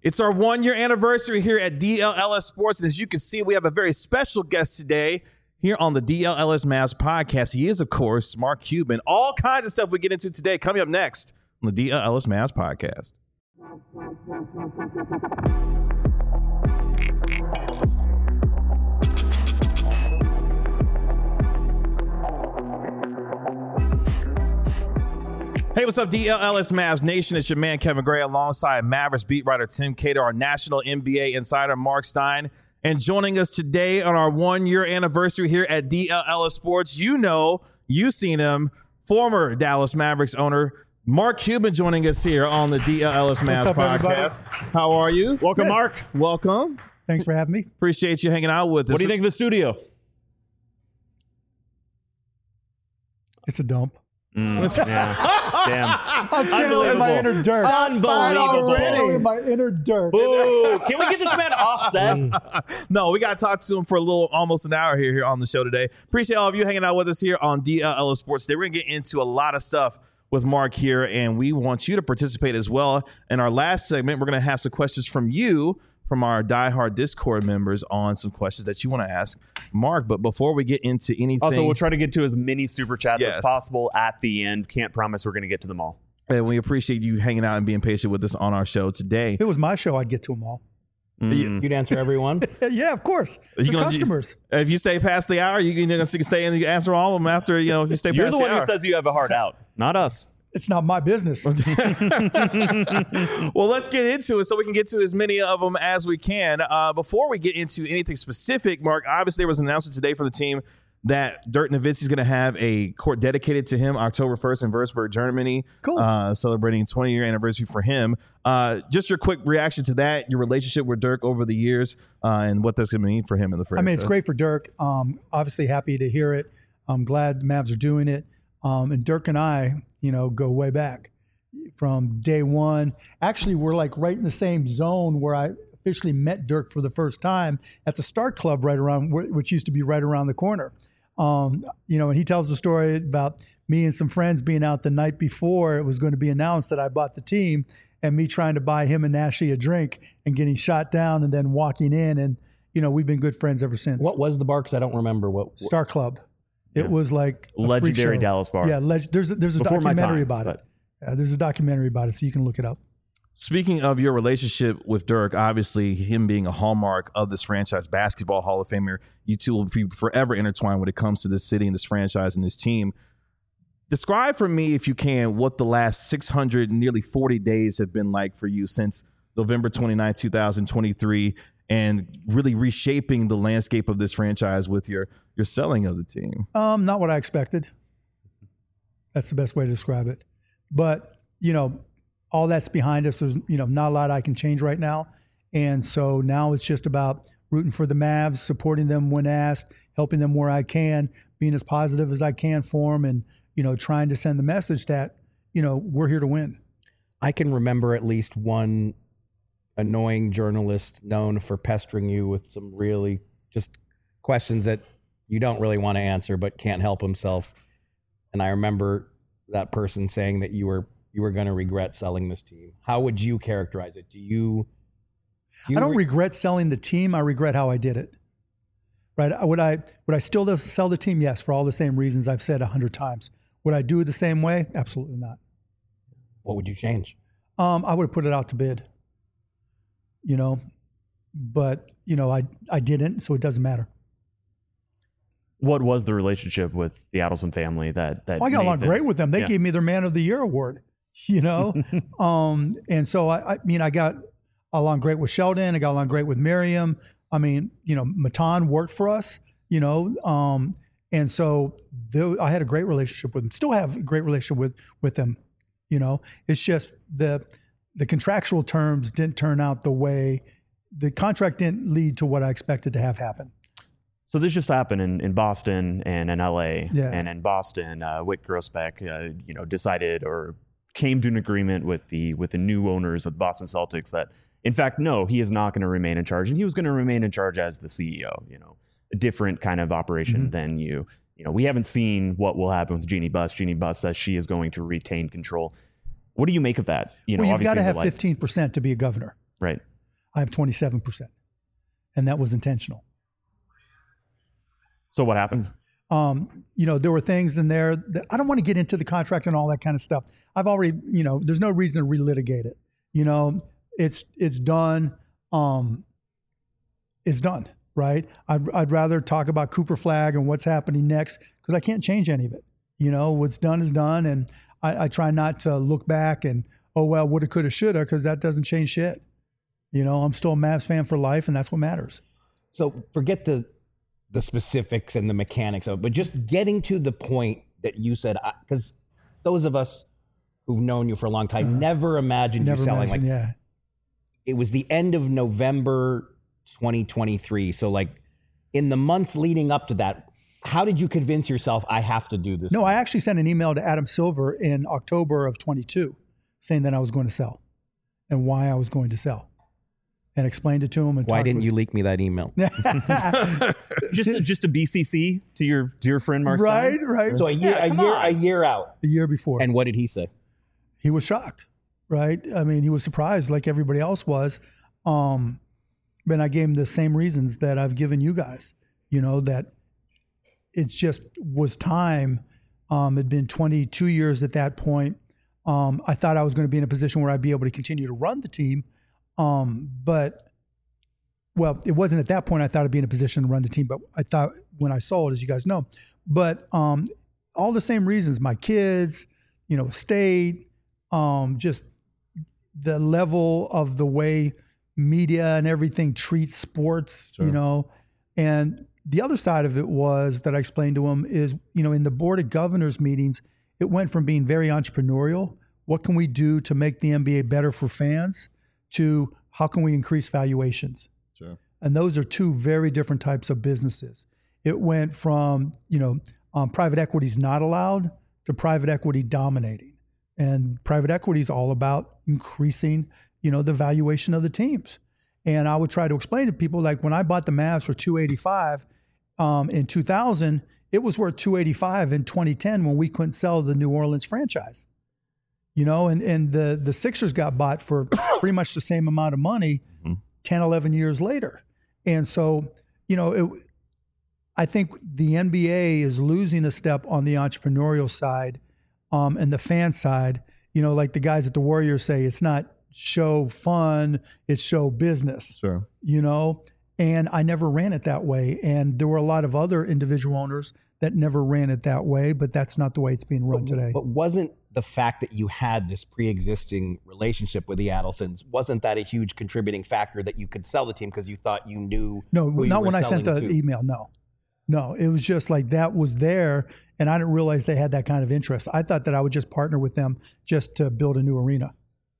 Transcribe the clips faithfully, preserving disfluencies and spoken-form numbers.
It's our one-year anniversary here at D L L S Sports, and as you can see, we have a very special guest today here on the D L L S Mavs podcast. He is, of course, Mark Cuban. All kinds of stuff we get into today coming up next on the D L L S Mavs podcast. Hey, what's up, D L L S Mavs Nation? It's your man, Kevin Gray, alongside Mavericks beat writer Tim Cater, our national N B A insider, Mark Stein. And joining us today on our one-year anniversary here at D L L S Sports, you know, you've seen him, former Dallas Mavericks owner, Mark Cuban, joining us here on the D L L S Mavs up, podcast. everybody? How are you? Welcome, Good. Mark. Welcome. Thanks for having me. Appreciate you hanging out with us. What do you think of the studio? It's a dump. Mm, yeah. Damn. I'm channeling my inner dirt. Unbelievable. Channeling my inner dirt. Ooh, can we get this man offset? No, we got to talk to him for a little, almost an hour here, here on the show today. Appreciate all of you hanging out with us here on D L L S Sports today. We're going to get into a lot of stuff with Mark here, and we want you to participate as well. In our last segment, we're going to have some questions from you, from our diehard Discord members, on some questions that you want to ask Mark. But before we get into anything, Also, we'll try to get to as many super chats Yes. as possible at the end. Can't promise we're going to get to them all. and we appreciate you hanging out and being patient with us on our show today. If it was my show, I'd get to them all. Mm. You'd answer everyone. Yeah, of course. You The gonna- customers. If you stay past the hour, you can, you can stay and you answer all of them after, you know, if you stay You're past the the, one hour. who says you have a heart out, not us. It's not my business. Well, let's get into it so we can get to as many of them as we can. Uh, before we get into anything specific, Mark, obviously there was an announcement today from the team that Dirk Nowitzki is going to have a court dedicated to him October first in Würzburg, Germany. Cool. Uh, celebrating twenty-year anniversary for him. Uh, just your quick reaction to that, your relationship with Dirk over the years, uh, and what that's going to mean for him in the franchise. I mean, it's great for Dirk. Um, obviously happy to hear it. I'm glad the Mavs are doing it. Um, and Dirk and I, you know, go way back from day one. Actually, we're like right in the same zone where I officially met Dirk for the first time at the Start Club right around, which used to be right around the corner. Um, you know, and he tells the story about me and some friends being out the night before it was going to be announced that I bought the team, and me trying to buy him and Ashley a drink and getting shot down and then walking in. And, you know, we've been good friends ever since. What was the bar? Because I don't remember what. what Star Club. It Yeah. was like a freak Legendary show. Dallas bar. Yeah, leg- there's a, there's a Before my documentary time, about but- it. Yeah, there's a documentary about it, so you can look it up. Speaking of your relationship with Dirk, obviously him being a hallmark of this franchise, basketball Hall of Famer, you two will be forever intertwined when it comes to this city and this franchise and this team. Describe for me, if you can, what the last six hundred, nearly forty days have been like for you since November twenty-ninth, twenty twenty-three, and really reshaping the landscape of this franchise with your your selling of the team. Um, not what I expected. That's the best way to describe it. But, you know, all that's behind us. There's, you know, not a lot I can change right now. And so now it's just about rooting for the Mavs, supporting them when asked, helping them where I can, being as positive as I can for them, and, you know, trying to send the message that, you know, we're here to win. I can remember at least one annoying journalist known for pestering you with some really just questions that you don't really want to answer but can't help himself. And I remember that person saying that you were you were going to regret selling this team. How would you characterize it? Do you? do you I don't re- regret selling the team. I regret how I did it. Right? Would I would I still sell the team? Yes, for all the same reasons I've said a hundred times. Would I do it the same way? Absolutely not. What would you change? Um, I would have put it out to bid. You know, but you know, I I didn't, so it doesn't matter. What was the relationship with the Adelson family that that Well, I got made along the- great with them. They Yeah. gave me their Man of the Year award. You know, um, and so I, I mean, I got along great with Sheldon. I got along great with Miriam. I mean, you know, Matan worked for us. You know, um, and so the, I had a great relationship with them. Still have a great relationship with with them. You know, it's just the the contractual terms didn't turn out the way the contract didn't lead to what I expected to have happen. So this just happened in, in Boston and in L A. Yeah. And in Boston, uh, Wick Grossbeck, uh, you know, decided or came to an agreement with the with the new owners of the Boston Celtics that, in fact, no, he is not going to remain in charge, and he was going to remain in charge as the C E O. You know, a different kind of operation Mm-hmm. than you. You know, we haven't seen what will happen with Jeannie Buss. Jeannie Buss says she is going to retain control. What do you make of that? You know, Well, you've got to obviously have the life- fifteen percent to be a governor. Right. I have twenty-seven percent. And that was intentional. So what happened? Um, you know, there were things in there that I don't want to get into the contract and all that kind of stuff. I've already, you know, there's no reason to relitigate it. You know, it's it's done. Um, it's done, right? I'd, I'd rather talk about Cooper Flagg and what's happening next because I can't change any of it. You know, what's done is done, and I, I try not to look back and, oh, well, woulda, coulda, shoulda, because that doesn't change shit. You know, I'm still a Mavs fan for life, and that's what matters. So forget the the specifics and the mechanics of it, but just getting to the point that you said, because those of us who've known you for a long time uh, never imagined never you selling. Imagined, like, yeah. It was the end of November twenty twenty-three. So, like, in the months leading up to that, how did you convince yourself I have to do this? No, I actually sent an email to Adam Silver in October of twenty-two saying that I was going to sell and why I was going to sell. And explained it to him. And why didn't with you leak me that email? just a, just a B C C to your dear friend Mark Right, Stein? right. So a year, Yeah, a come year, on. a year out. A year before. And what did he say? He was shocked, right? I mean, he was surprised like everybody else was. Um, but I gave him the same reasons that I've given you guys, you know, that it just was time. Um, it'd been twenty-two years at that point. Um, I thought I was going to be in a position where I'd be able to continue to run the team. Um, but, well, it wasn't at that point I thought I'd be in a position to run the team, but I thought when I sold, as you guys know, but um, all the same reasons, my kids, you know, state, um, just the level of the way media and everything treats sports, Sure. you know, and the other side of it was that I explained to him is, you know, in the Board of Governors meetings, it went from being very entrepreneurial. What can we do to make the N B A better for fans? To how can we increase valuations? Sure. And those are two very different types of businesses. It went from, you know, um, private equity is not allowed to private equity dominating. And private equity is all about increasing, you know, the valuation of the teams. And I would try to explain to people, like when I bought the Mavs for two eighty-five um, in two thousand, it was worth two eighty-five in twenty ten when we couldn't sell the New Orleans franchise. You know, and, and the, the Sixers got bought for pretty much the same amount of money mm-hmm. ten, eleven years later. And so, you know, it, I think the N B A is losing a step on the entrepreneurial side um, and the fan side. You know, like the guys at the Warriors say, it's not show fun, it's show business. Sure. You know, and I never ran it that way. And there were a lot of other individual owners that never ran it that way, but that's not the way it's being run but, today. But wasn't the fact that you had this pre-existing relationship with the Adelsons, wasn't that a huge contributing factor that you could sell the team because you thought you knew? No, who you not were when I sent the selling to? email. No, no, it was just like that was there, and I didn't realize they had that kind of interest. I thought that I would just partner with them just to build a new arena.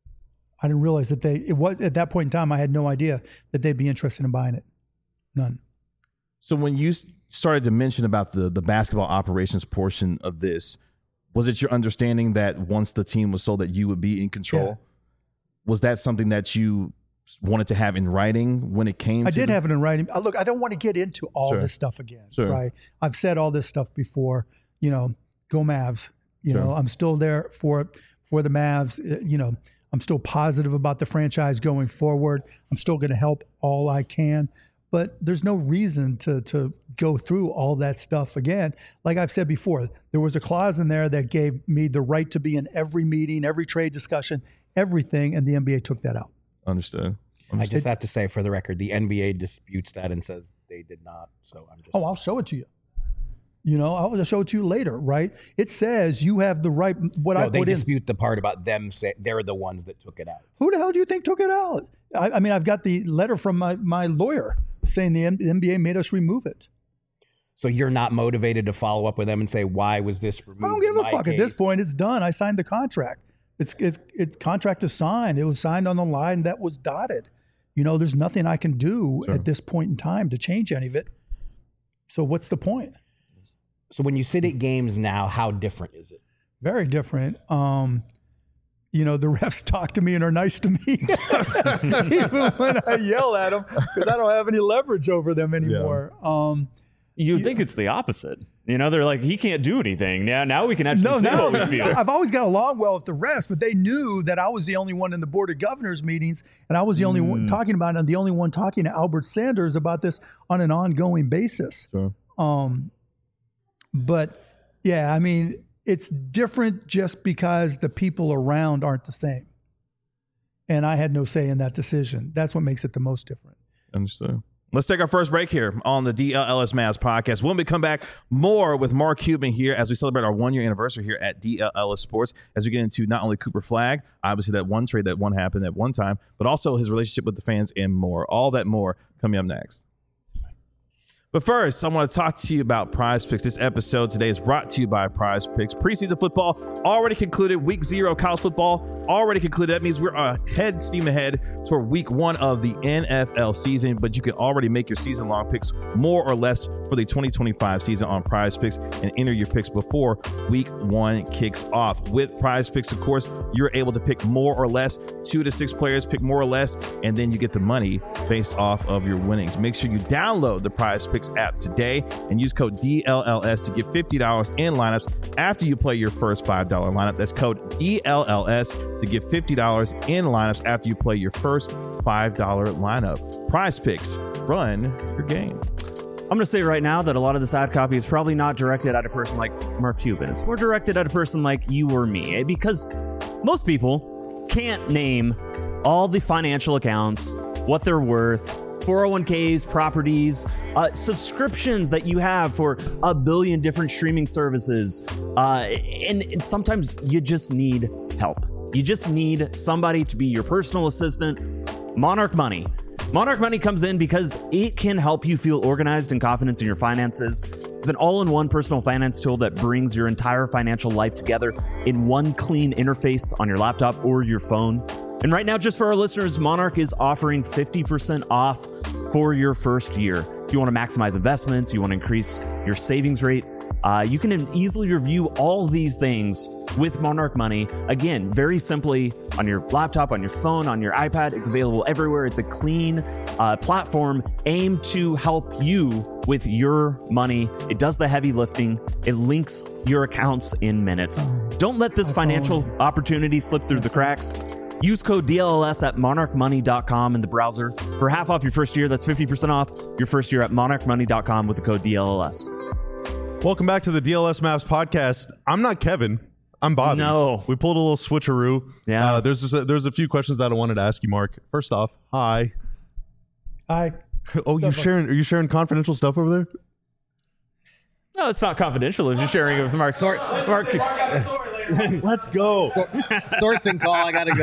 I didn't realize that they, it was at that point in time, I had no idea that they'd be interested in buying it. None. So when you s- started to mention about the the basketball operations portion of this, was it your understanding that once the team was sold that you would be in control? Yeah. Was that something that you wanted to have in writing when it came I to did the- have it in writing. Uh, Look, I don't want to get into all Sure. this stuff again, Sure. right? I've said all this stuff before. You know, go Mavs. You Sure. know, I'm still there for for the Mavs. Uh, You know, I'm still positive about the franchise going forward. I'm still going to help all I can. But there's no reason to to go through all that stuff again. Like I've said before, there was a clause in there that gave me the right to be in every meeting, every trade discussion, everything, and the N B A took that out. Understood. I just have to say, for the record, the N B A disputes that and says they did not. So I'm just. Oh, I'll show it to you. You know, I'll show it to you later, right? It says you have the right. What no, I they put in. dispute the part about them say they're the ones that took it out. Who the hell do you think took it out? I, I mean, I've got the letter from my, my lawyer saying the N B A made us remove it. So you're not motivated to follow up with them and say, why was this removed? I don't give in a my fuck. At this case? point, it's done. I signed the contract. It's it's it's contract is signed. It was signed on the line that was dotted. You know, there's nothing I can do Sure. at this point in time to change any of it. So what's the point? So when you sit at games now, how different is it? Very different. Um, you know, the refs talk to me and are nice to me, even when I yell at them because I don't have any leverage over them anymore. Um, You'd think it's the opposite. You know, they're like, he can't do anything. Now, now we can actually No, say no. what we feel. I've always got along well with the rest, but they knew that I was the only one in the Board of Governors meetings, and I was the only one talking about it, and the only one talking to Albert Sanders about this on an ongoing basis. Sure. Um, but yeah, I mean, it's different just because the people around aren't the same. And I had no say in that decision. That's what makes it the most different. Understood. Let's take our first break here on the D L L S Mavs podcast. When we come back, more with Mark Cuban here as we celebrate our one-year anniversary here at D L L S Sports, as we get into not only Cooper Flagg, obviously that one trade that one happened at one time, but also his relationship with the fans and more. All that more coming up next. But first, I want to talk to you about Prize Picks. This episode today is brought to you by Prize Picks. Preseason football already concluded. Week zero college football already concluded. That means we're ahead, steam ahead toward week one of the N F L season, but you can already make your season-long picks more or less for the twenty twenty-five season on Prize Picks and enter your picks before week one kicks off. With Prize Picks, of course, you're able to pick more or less, two to six players, pick more or less, and then you get the money based off of your winnings. Make sure you download the Prize Picks app today and use code D L L S to get fifty dollars in lineups after you play your first five dollar lineup. That's code D L L S to get fifty dollars in lineups after you play your first five dollar lineup. Prize Picks, run your game. I'm going to say right now that a lot of this ad copy is probably not directed at a person like Mark Cuban. It's more directed at a person like you or me, eh? Because most people can't name all the financial accounts, what they're worth, four oh one k's, properties, uh, subscriptions that you have for a billion different streaming services. Uh, and, and sometimes you just need help. You just need somebody to be your personal assistant. Monarch Money. Monarch Money comes in because it can help you feel organized and confident in your finances. It's an all-in-one personal finance tool that brings your entire financial life together in one clean interface on your laptop or your phone. And right now, just for our listeners, Monarch is offering fifty percent off for your first year. If you want to maximize investments, you want to increase your savings rate, uh, you can easily review all these things with Monarch Money. Again, very simply on your laptop, on your phone, on your iPad. It's available everywhere. It's a clean uh, platform aimed to help you with your money. It does the heavy lifting. It links your accounts in minutes. Don't let this financial opportunity slip through the cracks. Use code D L L S at monarch money dot com in the browser for half off your first year. That's fifty percent off your first year at monarch money dot com with the code D L L S. Welcome back to the D L S Mavs podcast. I'm not Kevin. I'm Bobby. No. We pulled a little switcheroo. Yeah. Uh, there's just a, there's a few questions that I wanted to ask you, Mark. First off, hi. I Oh, you sharing? Are you sharing confidential stuff over there? No, it's not confidential. It's just sharing it with Mark. Sorry, Mark. Let's go. Sourcing call. I gotta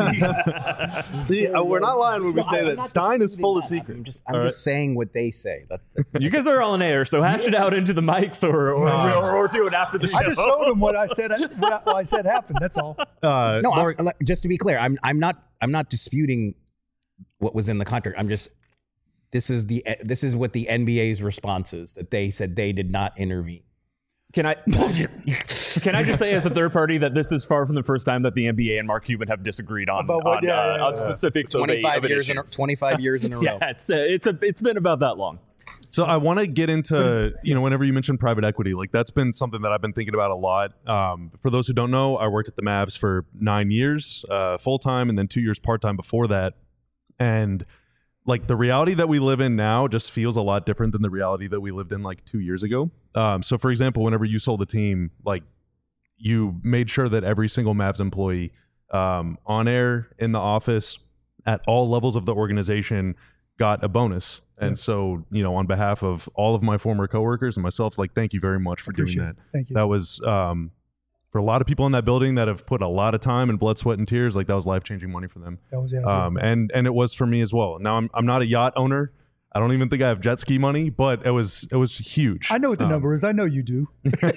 go. See, uh, we're not lying when we say I'm that not Stein is disputing full of that. secrets. I'm just, I'm All just saying what they say. That, You guys are all in air, so hash it out into the mics or or, or, or do it after the show. I just showed him what I said. What I said happened. That's all. Uh, no, Mark, I'm, just to be clear, I'm I'm not I'm not disputing what was in the contract. I'm just this is the this is what the N B A's response is, that they said they did not intervene. Can I can I just say as a third party that this is far from the first time that the N B A and Mark Cuban have disagreed on About what? on, Yeah, uh, yeah, yeah, on yeah. specifics of a, twenty-five of an years in issue. a, twenty-five years in a row. Yeah, it's uh, it's a it's been about that long. So I want to get into, you know, whenever you mention private equity, like that's been something that I've been thinking about a lot. Um, for those who don't know, I worked at the Mavs for nine years uh, full time and then two years part time before that. And like the reality that we live in now just feels a lot different than the reality that we lived in like two years ago. Um, so for example, whenever you sold the team, like you made sure that every single Mavs employee um, on air, in the office, at all levels of the organization got a bonus. And so, you know, on behalf of all of my former coworkers and myself, like, thank you very much for doing Appreciate that. it. Thank you. That was, um, for a lot of people in that building that have put a lot of time and blood, sweat, and tears, like that was life-changing money for them. That was the idea. Um, and, and it was for me as well. Now I'm, I'm not a yacht owner. I don't even think I have jet ski money, but it was, it was huge. I know what the Um, number is. I know you do.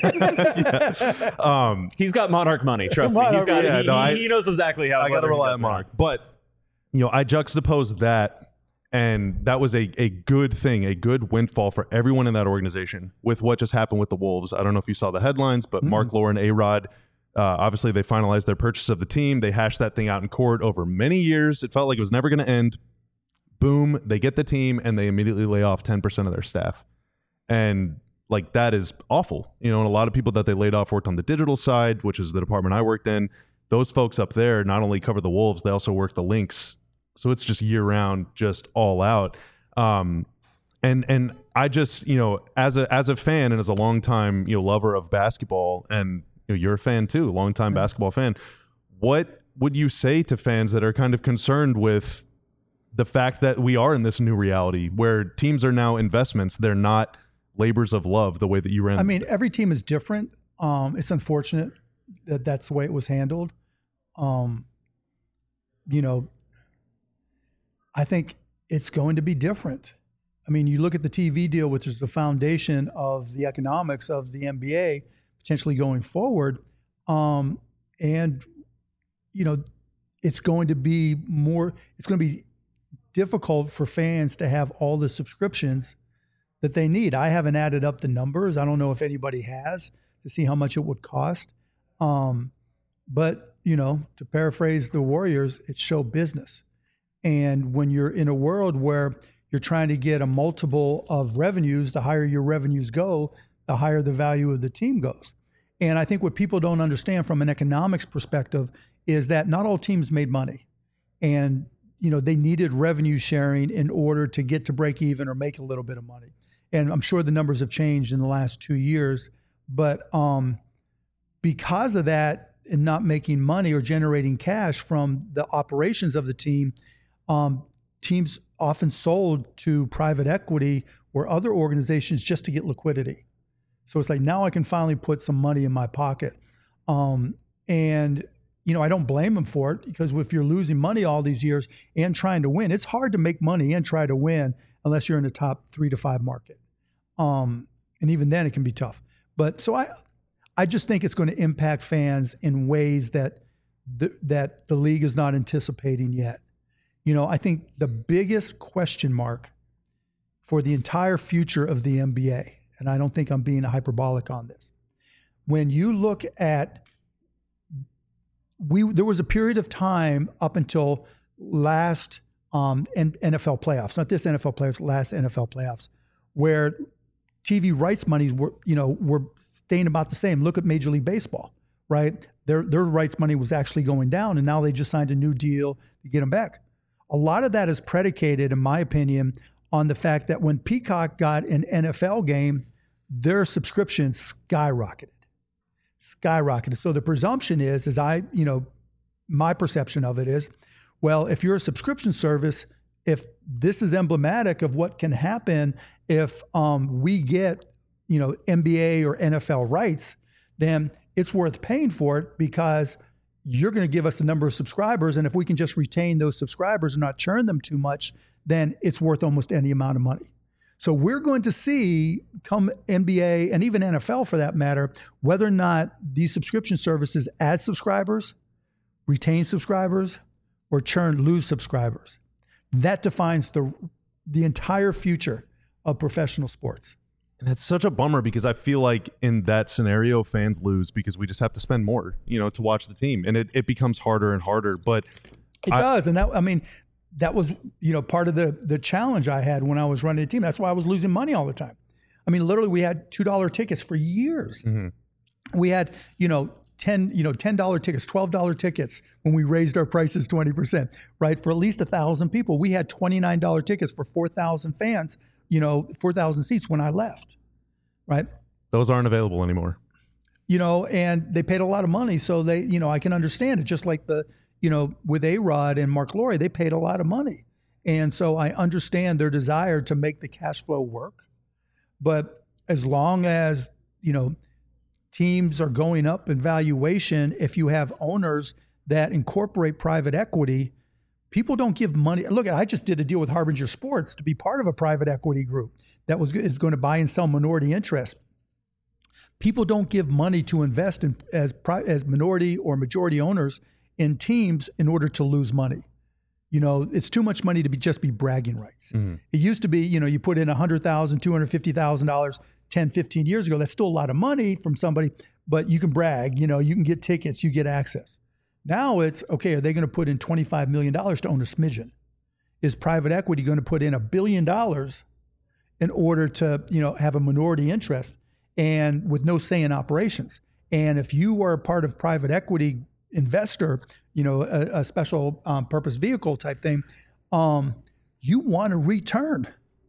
Um, He's got Monarch money. Trust me. Monarch, He's got. yeah, he, no, I- he knows exactly how. I got to whether he rely does on or not. Mark. But, you know, I juxtaposed that, and that was a, a good thing, a good windfall for everyone in that organization with what just happened with the Wolves. I don't know if you saw the headlines, but Mm-hmm. Mark, Lauren, A-Rod, uh, obviously they finalized their purchase of the team. They hashed that thing out in court over many years. It felt like it was never going to end. Boom, they get the team, and they immediately lay off ten percent of their staff. And like that is awful. You know, and a lot of people that they laid off worked on the digital side, which is the department I worked in. Those folks up there not only cover the Wolves, they also work the Lynx. So it's just year round, just all out. Um, and and I just, you know, as a as a fan and as a longtime, you know, lover of basketball, and you know, you're a fan too, longtime yeah. basketball fan. What would you say to fans that are kind of concerned with the fact that we are in this new reality where teams are now investments? They're not labors of love the way that you ran. I mean, every team is different. Um, it's unfortunate that that's the way it was handled. Um, you know, I think it's going to be different. I mean, you look at the T V deal, which is the foundation of the economics of the N B A potentially going forward. Um, and, you know, it's going to be more, it's going to be difficult for fans to have all the subscriptions that they need. I haven't added up the numbers. I don't know if anybody has to see how much it would cost. Um, but, you know, to paraphrase the Warriors, it's show business. And when you're in a world where you're trying to get a multiple of revenues, the higher your revenues go, the higher the value of the team goes. And I think what people don't understand from an economics perspective is that not all teams made money. And, you know, they needed revenue sharing in order to get to break even or make a little bit of money. And I'm sure the numbers have changed in the last two years. But um, because of that and not making money or generating cash from the operations of the team, um, teams often sold to private equity or other organizations just to get liquidity. So it's like, now I can finally put some money in my pocket. Um, and, you know, I don't blame them for it, because if you're losing money all these years and trying to win, it's hard to make money and try to win unless you're in the top three to five market. Um, and even then it can be tough. But so I, I just think it's going to impact fans in ways that the, that the league is not anticipating yet. You know, I think the biggest question mark for the entire future of the N B A, and I don't think I'm being hyperbolic on this, when you look at, we there was a period of time up until last um, N F L playoffs, not this N F L playoffs, last N F L playoffs, where T V rights monies were, you know, were staying about the same. Look at Major League Baseball, right? Their their rights money was actually going down, and now they just signed a new deal to get them back. A lot of that is predicated, in my opinion, on the fact that when Peacock got an N F L game, their subscriptions skyrocketed, skyrocketed. So the presumption is, as I, you know, my perception of it is, well, if you're a subscription service, if this is emblematic of what can happen if um, we get, you know, N B A or N F L rights, then it's worth paying for it, because you're going to give us the number of subscribers. And if we can just retain those subscribers and not churn them too much, then it's worth almost any amount of money. So we're going to see, come N B A and even N F L for that matter, whether or not these subscription services add subscribers, retain subscribers, or churn, lose subscribers. That defines the the entire future of professional sports. And that's such a bummer, because I feel like in that scenario, fans lose because we just have to spend more, you know, to watch the team. And it, it becomes harder and harder. But it I, does. And that, I mean, that was, you know, part of the the challenge I had when I was running the team. That's why I was losing money all the time. I mean, literally, we had two dollar tickets for years. Mm-hmm. We had, you know, ten, you know, ten dollar tickets, twelve dollar tickets when we raised our prices twenty percent, right? For at least a thousand people. We had twenty-nine dollar tickets for four thousand fans, you know, four thousand seats when I left, right? Those aren't available anymore. You know, and they paid a lot of money. So they, you know, I can understand it. Just like the, you know, with A-Rod and Mark Lowry, they paid a lot of money. And so I understand their desire to make the cash flow work. But as long as, you know, teams are going up in valuation, if you have owners that incorporate private equity, people don't give money. Look, I just did a deal with Harbinger Sports to be part of a private equity group that was is going to buy and sell minority interest. People don't give money to invest in as as minority or majority owners in teams in order to lose money. You know, it's too much money to be just be bragging rights. Mm-hmm. It used to be, you know, you put in one hundred thousand dollars, two hundred fifty thousand dollars ten, fifteen years ago. That's still a lot of money from somebody, but you can brag, you know, you can get tickets, you get access. Now it's, okay, are they going to put in twenty-five million dollars to own a smidgen? Is private equity going to put in a billion dollars in order to, you know, have a minority interest? and with no say in operations. And if you are a part of private equity investor, you know, a, a special um, purpose vehicle type thing, um, you want a return,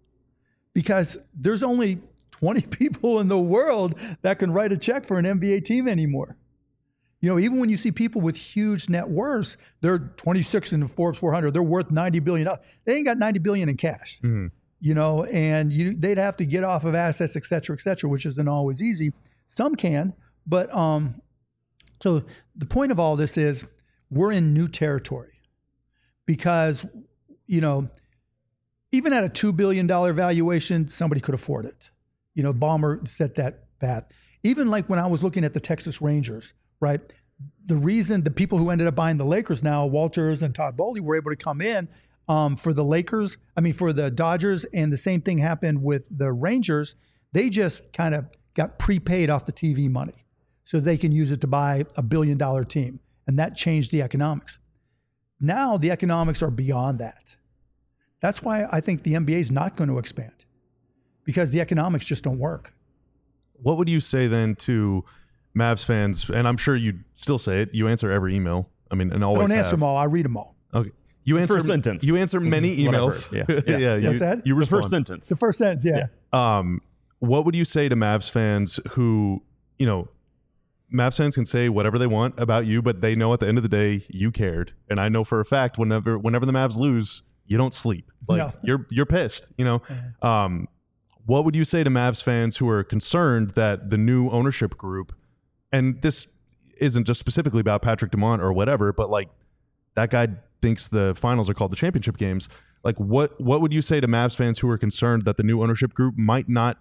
because there's only twenty people in the world that can write a check for an N B A team anymore. You know, even when you see people with huge net worths, they're twenty-six in the Forbes four hundred, they're worth ninety billion dollars. They ain't got ninety billion dollars in cash, mm-hmm. you know, and you, they'd have to get off of assets, et cetera, et cetera, which isn't always easy. Some can, but um, so the point of all this is we're in new territory, because, you know, even at a two billion dollars valuation, somebody could afford it. You know, Ballmer set that path. Even like when I was looking at the Texas Rangers, right? The reason the people who ended up buying the Lakers now, Walters and Todd Bowley, were able to come in um, for the Lakers, I mean, for the Dodgers, and the same thing happened with the Rangers. They just kind of got prepaid off the T V money so they can use it to buy a billion dollar team. And that changed the economics. Now the economics are beyond that. That's why I think the N B A is not going to expand, because the economics just don't work. What would you say then to Mavs fans? And I'm sure you still say it. You answer every email. I mean, and always I don't answer have. them all. I read them all. Okay. You The answer first sentence. You answer many emails. Yeah. yeah. Yeah. You, What's that? you The respond. first sentence. The first sentence, yeah. Yeah. Um, what would you say to Mavs fans who, you know, Mavs fans can say whatever they want about you, but they know at the end of the day you cared. And I know for a fact whenever whenever the Mavs lose, you don't sleep. Like No. you're you're pissed. You know. Um, what would you say to Mavs fans who are concerned that the new ownership group, and this isn't just specifically about Patrick Dumont or whatever, but like that guy thinks the finals are called the championship games. Like what what would you say to Mavs fans who are concerned that the new ownership group might not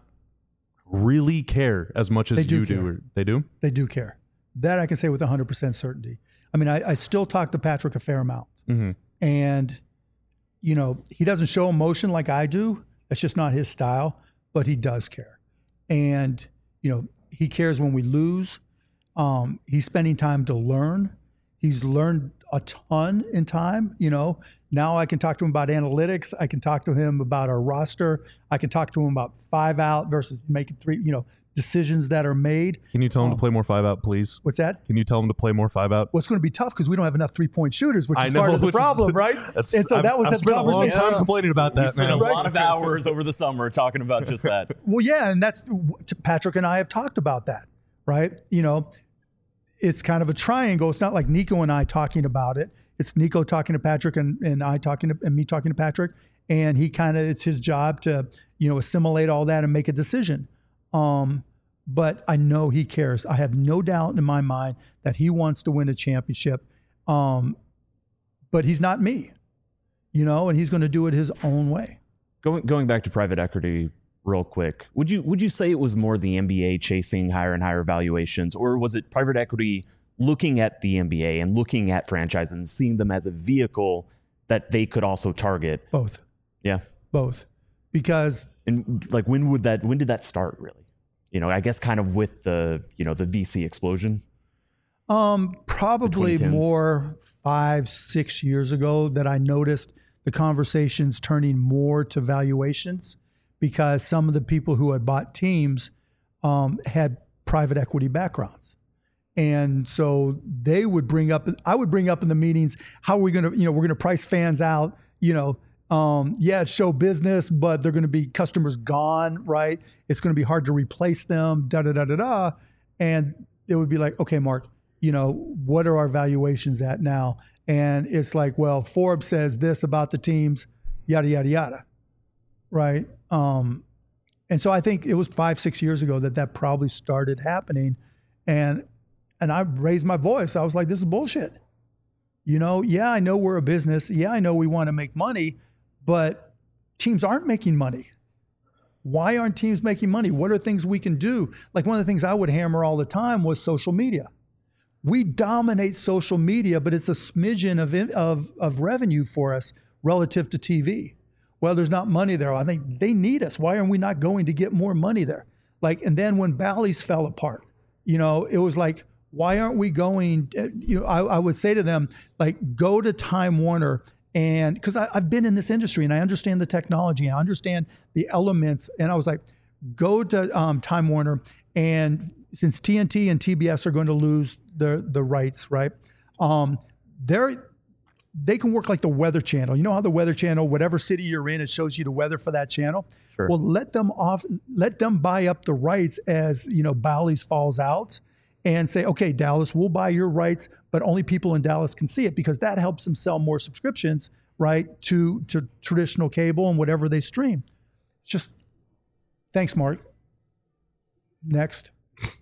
really care as much as They do you do? care. Or they do? They do care. That I can say with one hundred percent certainty. I mean, I, I still talk to Patrick a fair amount. Mm-hmm. And, you know, he doesn't show emotion like I do. That's just not his style, but he does care. And, you know, he cares when we lose. Um, he's spending time to learn. He's learned a ton in time. You know, now I can talk to him about analytics. I can talk to him about our roster. I can talk to him about five out versus making three, you know, decisions that are made. Can you tell him Um, to play more five out, please? What's that? Can you tell him to play more five out? Well, it's going to be tough because we don't have enough three-point shooters, which I is know, part of the which is- problem, right? That's- And so I've- that was I've the spent a long conversation. time complaining about We that, spent man. a lot of hours over the summer talking about just that. Well, yeah, and that's Patrick and I have talked about that, right? You know, it's kind of a triangle. It's not like Nico and I talking about it. It's Nico talking to Patrick and, and I talking to and me talking to Patrick. And he kind of, it's his job to, you know, assimilate all that and make a decision. Um, but I know he cares. I have no doubt in my mind that he wants to win a championship. Um, but he's not me, you know, and he's going to do it his own way. Going going back to private equity real quick, would you would you say it was more the N B A chasing higher and higher valuations, or was it private equity looking at the N B A and looking at franchises and seeing them as a vehicle that they could also target? Both, Yeah. both, because And like when would that when did that start really? You know, I guess kind of with the, you know, the V C explosion. Um, probably twenty tens. more five, six years ago that I noticed the conversations turning more to valuations, because some of the people who had bought teams um, had private equity backgrounds. And so they would bring up, I would bring up in the meetings, how are we going to, you know, we're going to price fans out, you know, um, yeah, it's show business, but they're going to be customers gone, right? It's going to be hard to replace them, da, da, da, da, da. And it would be like, okay, Mark, you know, what are our valuations at now? And it's like, well, Forbes says this about the teams, yada, yada, yada, right? Um, and so I think it was five, six years ago that that probably started happening. And and I raised my voice. I was like, this is bullshit. You know, yeah, I know we're a business. Yeah, I know we want to make money, but teams aren't making money. Why aren't teams making money? What are things we can do? Like one of the things I would hammer all the time was social media. We dominate social media, but it's a smidgen of, of, of revenue for us relative to T V. Well, there's not money there. I think they need us. Why are we not going to get more money there? Like, and then when Bally's fell apart, you know, it was like, why aren't we going, you know, I, I would say to them, like, go to Time Warner. And because I've been in this industry and I understand the technology, I understand the elements. And I was like, go to um, Time Warner, and since T N T and T B S are going to lose the the rights, right? Um, they're they can work like the Weather Channel. You know how the Weather Channel, whatever city you're in, it shows you the weather for that channel. Sure. Well, let them off, let them buy up the rights as, you know, Bally's falls out, and say, okay, Dallas, we'll buy your rights, but only people in Dallas can see it, because that helps them sell more subscriptions, right, to to traditional cable and whatever they stream. It's just, thanks, Mark. Next.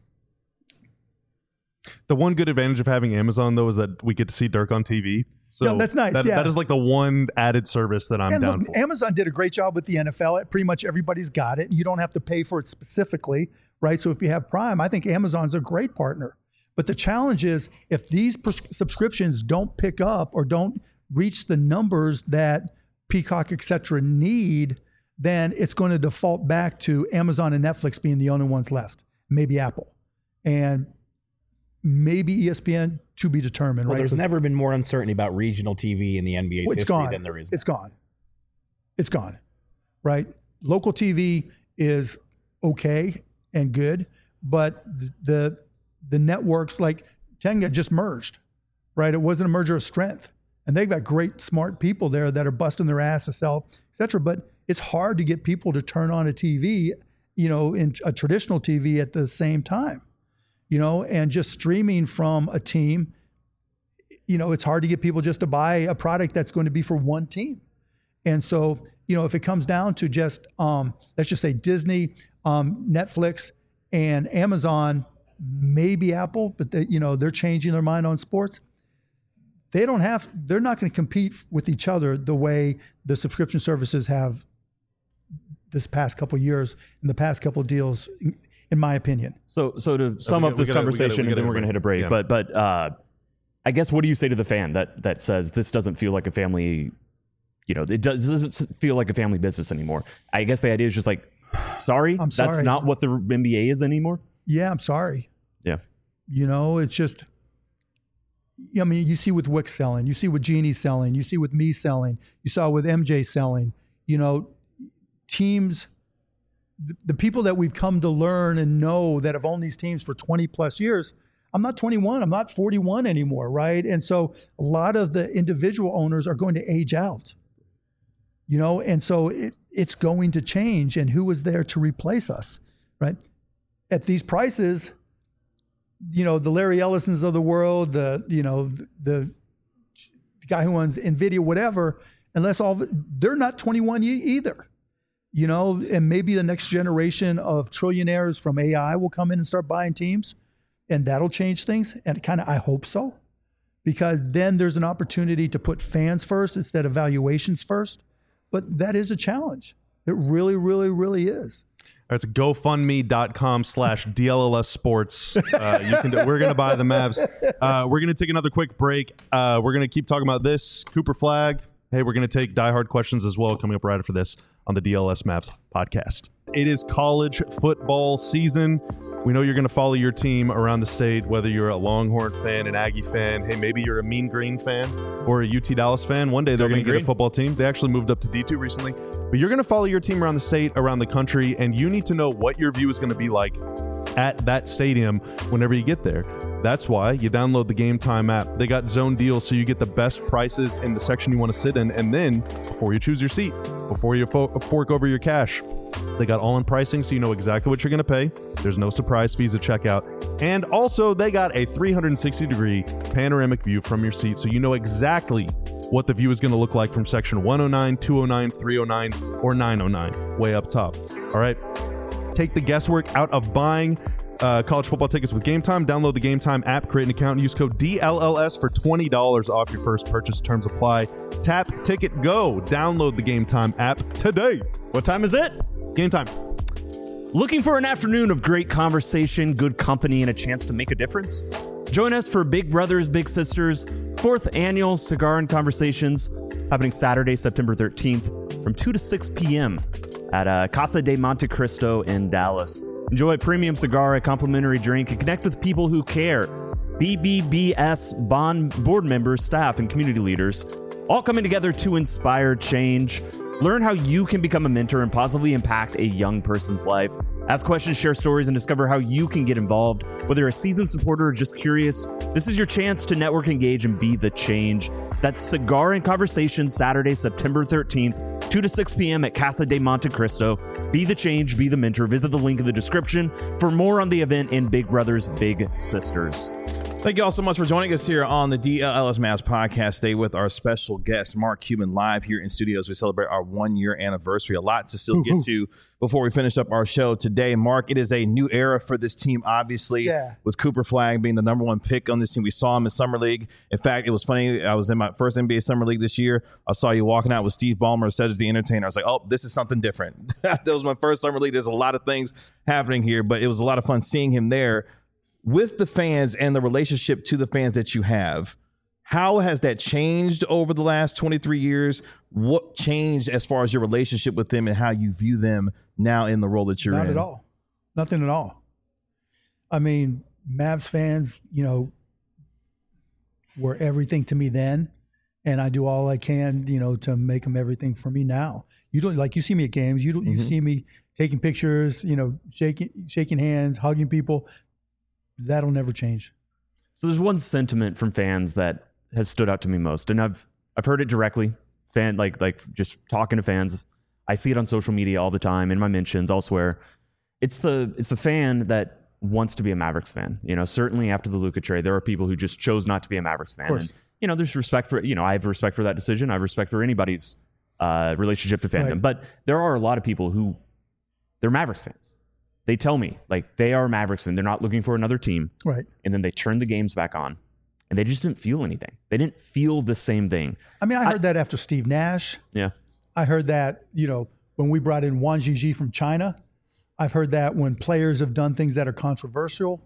The one good advantage of having Amazon, though, is that we get to see Dirk on T V. So No, that's nice, That, yeah. that is like the one added service that I'm And down look, for. Amazon did a great job with the N F L. Pretty much everybody's got it. You don't have to pay for it specifically, right? So if you have Prime, I think Amazon's a great partner. But the challenge is, if these pres- subscriptions don't pick up or don't reach the numbers that Peacock, et cetera, need, then it's going to default back to Amazon and Netflix being the only ones left, maybe Apple. And maybe E S P N, to be determined, Well, right? there's 'Cause- never been more uncertainty about regional T V in the N B A's Well, it's history gone. than there is It's now. gone. It's gone, right? Local T V is okay and good, but th- the the networks like Tenga just merged, right? It wasn't a merger of strength, and they've got great, smart people there that are busting their ass to sell, et cetera. But it's hard to get people to turn on a T V, you know, in a traditional T V at the same time, you know, and just streaming from a team. You know, it's hard to get people just to buy a product that's going to be for one team. And so, you know, if it comes down to just, um, let's just say Disney, um, Netflix, and Amazon, maybe Apple, but they, you know, they're changing their mind on sports. They don't have, they're not going to compete with each other the way the subscription services have this past couple of years and the past couple of deals, in, in my opinion. So, so to sum we up got- we this gotta- we conversation, gotta- we and then gotta we're going to hit a break. yeah. But, but uh, I guess, what do you say to the fan that that says this doesn't feel like a family? You know, it does, doesn't feel like a family business anymore. I guess the idea is just like, sorry, I'm that's sorry. not what the N B A is anymore. Yeah, I'm sorry. Yeah. You know, it's just, I mean, you see with Wix selling, you see with Genie selling, you see with me selling, you saw with M J selling, you know, teams, the, the people that we've come to learn and know that have owned these teams for twenty plus years. I'm not twenty-one, I'm not forty-one anymore, right? And so a lot of the individual owners are going to age out, you know, and so it, it's going to change. And who is there to replace us, right? At these prices, you know, the Larry Ellisons of the world, the, you know, the, the guy who owns NVIDIA, whatever, unless all of it, they're not twenty-one either, you know, and maybe the next generation of trillionaires from A I will come in and start buying teams, and that'll change things. And kind of, I hope so, because then there's an opportunity to put fans first instead of valuations first. But that is a challenge. It really, really, really is. It's GoFundMe.com slash DLLS Sports. Uh, you can do, we're going to buy the Mavs. Uh, we're going to take another quick break. Uh, we're going to keep talking about this. Cooper Flag. Hey, we're going to take diehard questions as well coming up right after this on the D L S Mavs podcast. It is college football season. We know you're going to follow your team around the state, whether you're a Longhorn fan, an Aggie fan, hey, maybe you're a Mean Green fan or a U T Dallas fan. One day they're Go going to Mean get a Green. football team. They actually moved up to D two recently. But you're going to follow your team around the state, around the country, and you need to know what your view is going to be like at that stadium whenever you get there. That's why you download the Game Time app. They got zone deals, so you get the best prices in the section you want to sit in. And then, before you choose your seat, before you fo- fork over your cash, they got all-in pricing, so you know exactly what you're going to pay. There's no surprise fees at checkout. And also, they got a three sixty degree panoramic view from your seat, so you know exactly what the view is going to look like from section one oh nine, two oh nine, three oh nine, or nine oh nine, way up top. All right? Take the guesswork out of buying uh, college football tickets with Game Time. Download the Game Time app, create an account, and use code D L L S for twenty dollars off your first purchase. Terms apply. Tap, ticket, go. Download the Game Time app today. What time is it? Game Time. Looking for an afternoon of great conversation, good company, and a chance to make a difference? Join us for Big Brothers Big Sisters fourth annual Cigar and Conversations, happening Saturday, September thirteenth from two to six p.m. at uh, Casa de Monte Cristo in Dallas. Enjoy a premium cigar, a complimentary drink, and connect with people who care. B B B S Bond board members, staff, and community leaders, all coming together to inspire change. Learn how you can become a mentor and positively impact a young person's life. Ask questions, share stories, and discover how you can get involved. Whether you're a seasoned supporter or just curious, this is your chance to network, engage, and be the change. That's Cigar and Conversation, Saturday, September thirteenth, two to six p.m. at Casa de Monte Cristo. Be the change, be the mentor. Visit the link in the description for more on the event and Big Brothers Big Sisters. Thank you all so much for joining us here on the D L L S Mavs podcast. Stay with our special guest, Mark Cuban, live here in studio as we celebrate our one-year anniversary. A lot to still get to before we finish up our show today. Mark, it is a new era for this team, obviously, Yeah. with Cooper Flagg being the number one pick on this team. We saw him in Summer League. In fact, it was funny. I was in my first N B A Summer League this year. I saw you walking out with Steve Ballmer, Cedric the Entertainer. I was like, oh, this is something different. That was my first Summer League. There's a lot of things happening here, but it was a lot of fun seeing him there. With the fans and the relationship to the fans that you have, how has that changed over the last twenty-three years? What changed as far as your relationship with them and how you view them now in the role that you're Not in? at all. Nothing at all. I mean, Mavs fans, you know, were everything to me then, and I do all I can, you know, to make them everything for me now. You don't like you see me at games. You don't. You Mhm. see me taking pictures. You know, shaking shaking hands, hugging people. That'll never change. So there's one sentiment from fans that has stood out to me most, and I've I've heard it directly. Fan like like just talking to fans. I see it on social media all the time, in my mentions, elsewhere. It's the it's the fan that wants to be a Mavericks fan. You know, certainly after the Luka trade, there are people who just chose not to be a Mavericks fan. course. And, you know, there's respect for you know I have respect for that decision. I have respect for anybody's uh, relationship to fandom. Right. But there are a lot of people who they're Mavericks fans. They tell me like they are Mavericks fans. They're not looking for another team. Right. And then they turn the games back on and they just didn't feel anything. They didn't feel the same thing. I mean, I heard that after Steve Nash. Yeah. I heard that, you know, when we brought in Wang Jiji from China. I've heard that when players have done things that are controversial.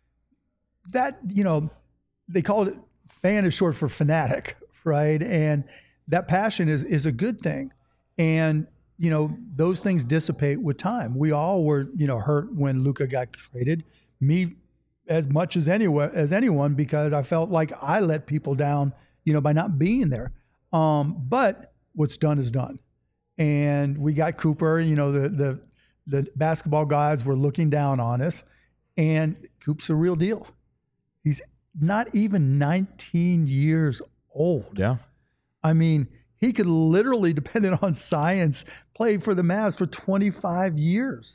That, you know, they call it fan is short for fanatic, right? And that passion is is a good thing. And, you know, those things dissipate with time. We all were, you know, hurt when Luka got traded. Me as much as anyone as anyone because I felt like I let people down, you know, by not being there. Um, but what's done is done. And we got Cooper, you know, the the the basketball gods were looking down on us. And Coop's a real deal. He's not even nineteen years old. Yeah. I mean, he could literally, depending on science, play for the Mavs for twenty-five years.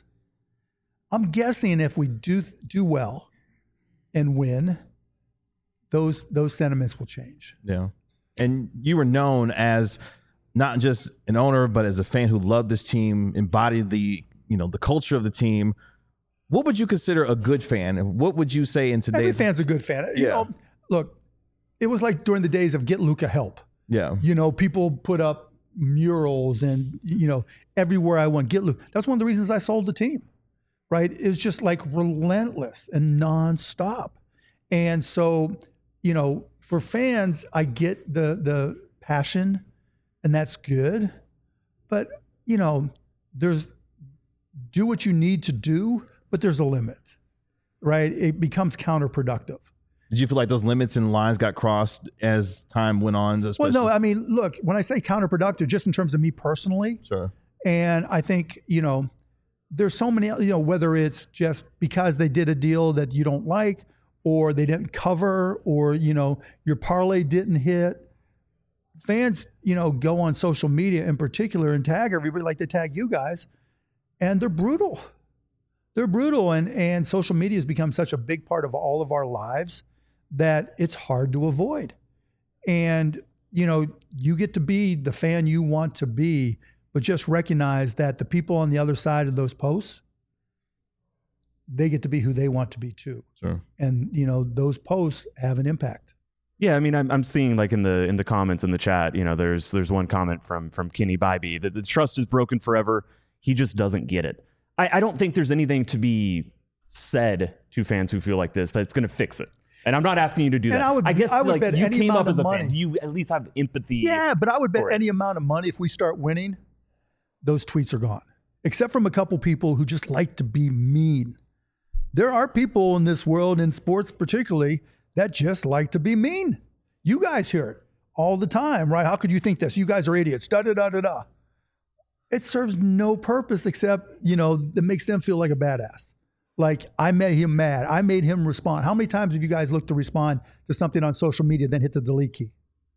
I'm guessing if we do do well and win, those those sentiments will change. Yeah. And you were known as not just an owner, but as a fan who loved this team, embodied the, you know, the culture of the team. What would you consider a good fan? And what would you say in today's Every fan's a good fan. You Yeah. know, look, it was like during the days of Get Luka Help. Yeah. You know, people put up murals and, you know, everywhere I went, get Luka. That's one of the reasons I sold the team, right? It's just like relentless and nonstop. And so, you know, for fans, I get the the passion and that's good. But, you know, there's do what you need to do, but there's a limit, right? It becomes counterproductive. Did you feel like those limits and lines got crossed as time went on? Well, especially- no, I mean, look, when I say counterproductive, just in terms of me personally, Sure. and I think, you know, there's so many, you know, whether it's just because they did a deal that you don't like, or they didn't cover, or, you know, your parlay didn't hit. Fans, you know, go on social media in particular and tag everybody like they tag you guys, and they're brutal. They're brutal, and and social media has become such a big part of all of our lives that it's hard to avoid. And, you know, you get to be the fan you want to be, but just recognize that the people on the other side of those posts, they get to be who they want to be too. Sure. And, you know, those posts have an impact. Yeah, I mean, I'm I'm seeing like in the in the comments in the chat, you know, there's there's one comment from from Kenny Bybee that the trust is broken forever. He just doesn't get it. I, I don't think there's anything to be said to fans who feel like this that's going to fix it. And I'm not asking you to do And that. I would- guess I would like bet you any came amount up as of a money. fan. You at least have empathy. Yeah, but I would bet for it. any amount of money if we start winning, those tweets are gone. Except from a couple people who just like to be mean. There are people in this world, in sports particularly, that just like to be mean. You guys hear it all the time, right? How could you think this? You guys are idiots. Da da da da da. it serves no purpose except, you know, that makes them feel like a badass. Like, I made him mad. I made him respond. How many times have you guys looked to respond to something on social media, then hit the delete key?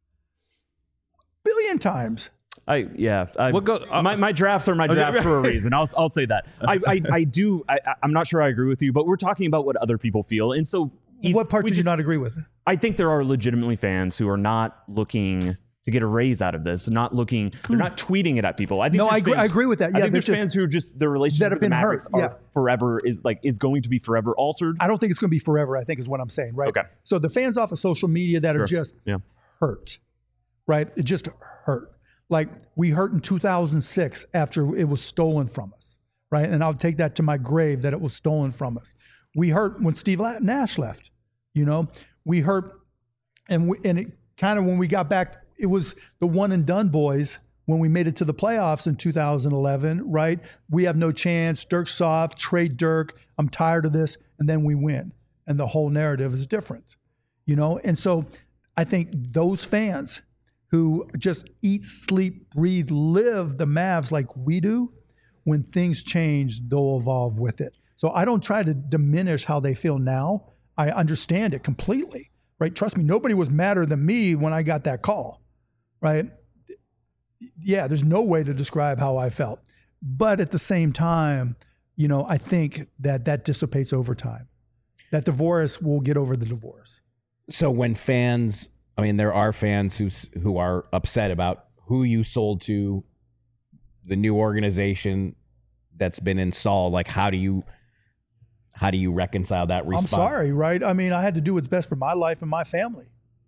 Billion times. I yeah. I, What go- uh, my my drafts are my drafts for a reason. I'll I'll say that. I I, I do. I, I'm not sure I agree with you, but we're talking about what other people feel, and so What part we did you just- not agree with? I think there are legitimately fans who are not looking to get a raise out of this, not looking. They're not tweeting it at people. I think No, there's I agree- fans- I agree with that. I Yeah, think there's there's fans who are just their relationship that have with the been hurt. Mavericks are Yeah. forever is like is going to be forever altered. I don't think it's going to be forever, I think is what I'm saying, right? Okay. So the fans off of social media that are Sure. just Yeah. hurt, right? It just hurt. Like, we hurt in two thousand six after it was stolen from us, right? And I'll take that to my grave that it was stolen from us. We hurt when Steve La- Nash left, you know? We hurt, and we, and it kind of, when we got back, it was the one and done boys when we made it to the playoffs in two thousand eleven, right? We have no chance. Dirk's soft, trade Dirk. I'm tired of this. And then we win. And the whole narrative is different, you know? And so I think those fans who just eat, sleep, breathe, live the Mavs like we do, when things change, they'll evolve with it. So I don't try to diminish how they feel now. I understand it completely, right? Trust me, nobody was madder than me when I got that call, right? Yeah, there's no way to describe how I felt. But at the same time, you know, I think that that dissipates over time. That divorce will get over the divorce. So when fans, I mean, there are fans who s- who are upset about who you sold to, the new organization that's been installed. Like, how do you how do you reconcile that response? I'm sorry, right? I mean, I had to do what's best for my life and my family.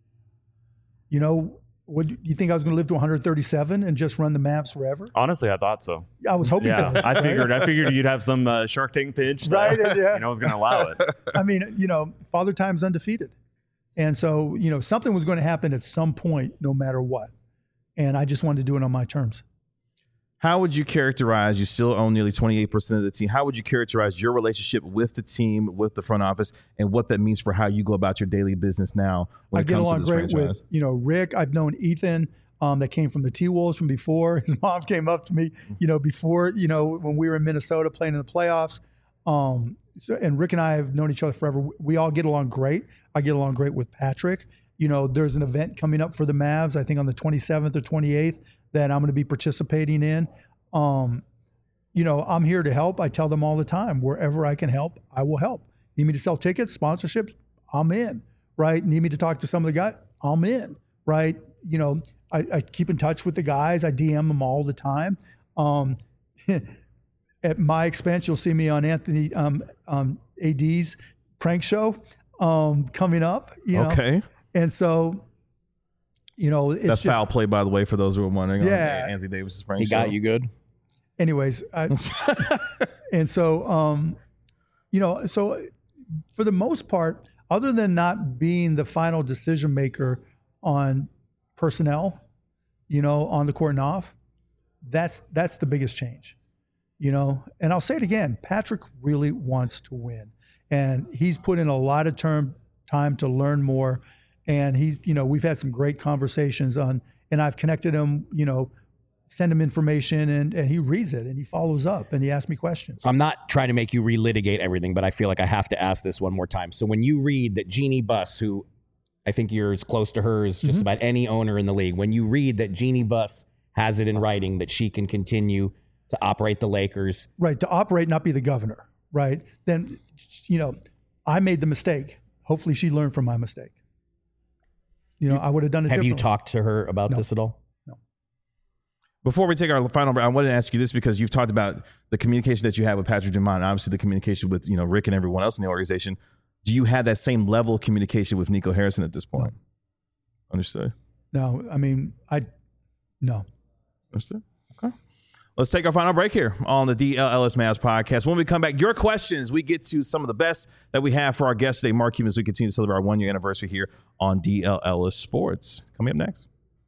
You know, would you think I was going to live to one hundred thirty-seven and just run the Mavs forever? Honestly, I thought so. I was hoping Yeah, so. I right? figured. I figured you'd have some uh, Shark Tank pitch, that, Right, yeah. You know, I was going to allow it. I mean, you know, Father Time's undefeated. And so, you know, something was going to happen at some point, no matter what. And I just wanted to do it on my terms. How would you characterize, you still own nearly twenty-eight percent of the team, how would you characterize your relationship with the team, with the front office, and what that means for how you go about your daily business now when I it get comes to along this great franchise? with, you know, Rick. I've known Ethan um, that came from the T-Wolves from before. His mom came up to me, you know, before, you know, when we were in Minnesota playing in the playoffs. Um, so, and Rick and I have known each other forever. We all get along great. I get along great with Patrick. You know, there's an event coming up for the Mavs, I think on the twenty-seventh or twenty-eighth, that I'm going to be participating in. Um, you know, I'm here to help. I tell them all the time, wherever I can help, I will help. Need me to sell tickets, sponsorships, I'm in, right? Need me to talk to some of the guys, I'm in, right? You know, I, I keep in touch with the guys. I D M them all the time. Um, at my expense, you'll see me on Anthony um, um, A D's prank show um, coming up. You know? Okay. And so, you know, it's That's just, foul play, by the way, for those who are wondering. Yeah. On Anthony Davis's prank He got show. you good. anyways, I, and so, um, you know, so for the most part, other than not being the final decision maker on personnel, you know, on the court and off, that's that's the biggest change, you know. And I'll say it again, Patrick really wants to win, and he's put in a lot of term time to learn more. And he's, you know, we've had some great conversations on, and I've connected him, you know, send him information, and and he reads it and he follows up and he asks me questions. I'm not trying to make you relitigate everything, but I feel like I have to ask this one more time. So when you read that Jeannie Buss, who I think you're as close to her as just Mm-hmm. about any owner in the league, when you read that Jeannie Buss has it in writing that she can continue to operate the Lakers, Right, to operate, not be the governor, right? Then, you know, I made the mistake. Hopefully she learned from my mistake. You know, I would have done it have you differently. talked to her about No. this at all? Before we take our final break, I wanted to ask you this because you've talked about the communication that you have with Patrick Dumont, obviously the communication with, you know, Rick and everyone else in the organization. Do you have that same level of communication with Nico Harrison at this point? Understood. No, I mean, I, no. Understood. Okay. Let's take our final break here on the D L Ellis Mavs podcast. When we come back, your questions, we get to some of the best that we have for our guest today, Mark Cuban, as we continue to celebrate our one-year anniversary here on D L Ellis Sports. Coming up next.